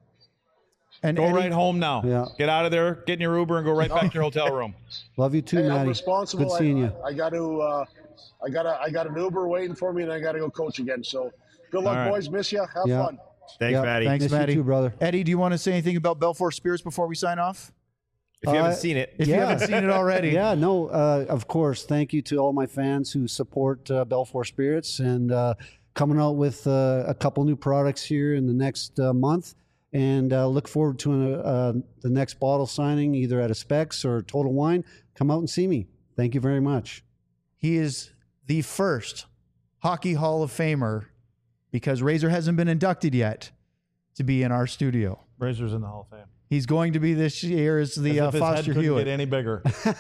And Go Eddie, right home now. Yeah. Get out of there, get in your Uber, and go right back to your hotel room. Love you too, Hey, I'm Maddie. responsible. Good seeing I, you. I, I got to. Uh, I got a, I got an Uber waiting for me, and I got to go coach again. So, good luck, All right. boys. Miss you. Have Yeah. fun. Thanks, Yeah. Maddie. Thanks, Miss you Maddie. too, brother. Eddie, do you want to say anything about Belfour Spirits before we sign off? If you Uh, haven't seen it, If you Yeah. haven't seen it already. Yeah, no, uh, of course. Thank you to all my fans who support uh, Belfour Spirits and uh, coming out with uh, a couple new products here in the next uh, month. And uh, look forward to uh, the next bottle signing, either at a Specs or Total Wine. Come out and see me. Thank you very much. He is the first Hockey Hall of Famer, because Razor hasn't been inducted yet, to be in our studio. Razor's in the Hall of Fame. He's going to be this year as the As uh, if his head Foster couldn't Hewitt. get any bigger.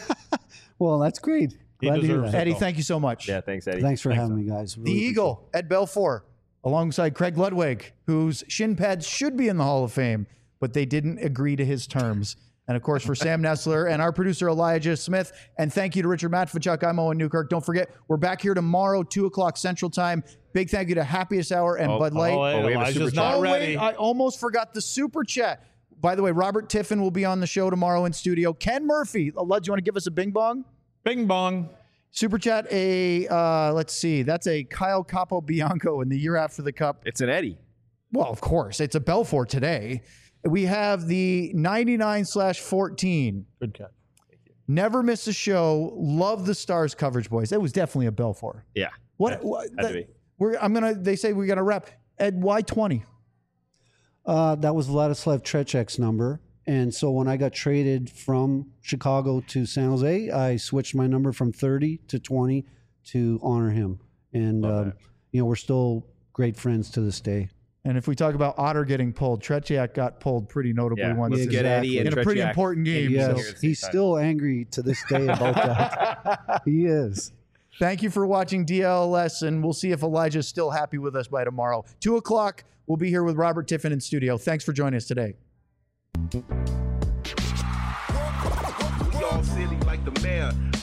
Well, that's great. He Glad to hear deserves that. it. Eddie, though. thank you so much. yeah, thanks, Eddie. Thanks for Thanks, having me, guys. The Really appreciate Eagle, Ed Belfour, alongside Craig Ludwig, whose shin pads should be in the Hall of Fame, but they didn't agree to his terms. And of course, for Sam Nessler and our producer, Elijah Smith. And thank you to Richard Matvichuk. I'm Owen Newkirk. Don't forget, we're back here tomorrow, two o'clock Central Time. Big thank you to Happiest Hour and Oh, Bud Light. Oh, wait, Oh, we have a Elijah's super not Oh, ready. wait, I almost forgot the super chat. By the way, Robert Tiffin will be on the show tomorrow in studio. Ken Murphy. Uh, Lud, do you want to give us a bing bong? Bing bong. Super chat, a, uh, let's see, that's a Kyle Capo Bianco in the year after the Cup. It's an Eddie. Well, of course, it's a Belfour today. We have the ninety-nine slash fourteen. Good catch. Never miss a show. Love the Stars coverage, boys. That was definitely a Belfour. Yeah. What? Had- what had to that- be. we're, I'm gonna. They say we're gonna wrap. Ed, why twenty? Uh, that was Vladislav Trecek's number. And so when I got traded from Chicago to San Jose, I switched my number from thirty to twenty to honor him. And, um, you know, we're still great friends to this day. And if we talk about Otter getting pulled, Tretiak got pulled pretty notably Yeah, once let's in, get Eddie and in a pretty Tretiak important game. Yes, So he's still angry to this day about that. He is. thank you for watching D L S, and we'll see if Elijah's still happy with us by tomorrow. Two o'clock, we'll be here with Robert Tiffin in studio. Thanks for joining us today. We all silly like the mayor.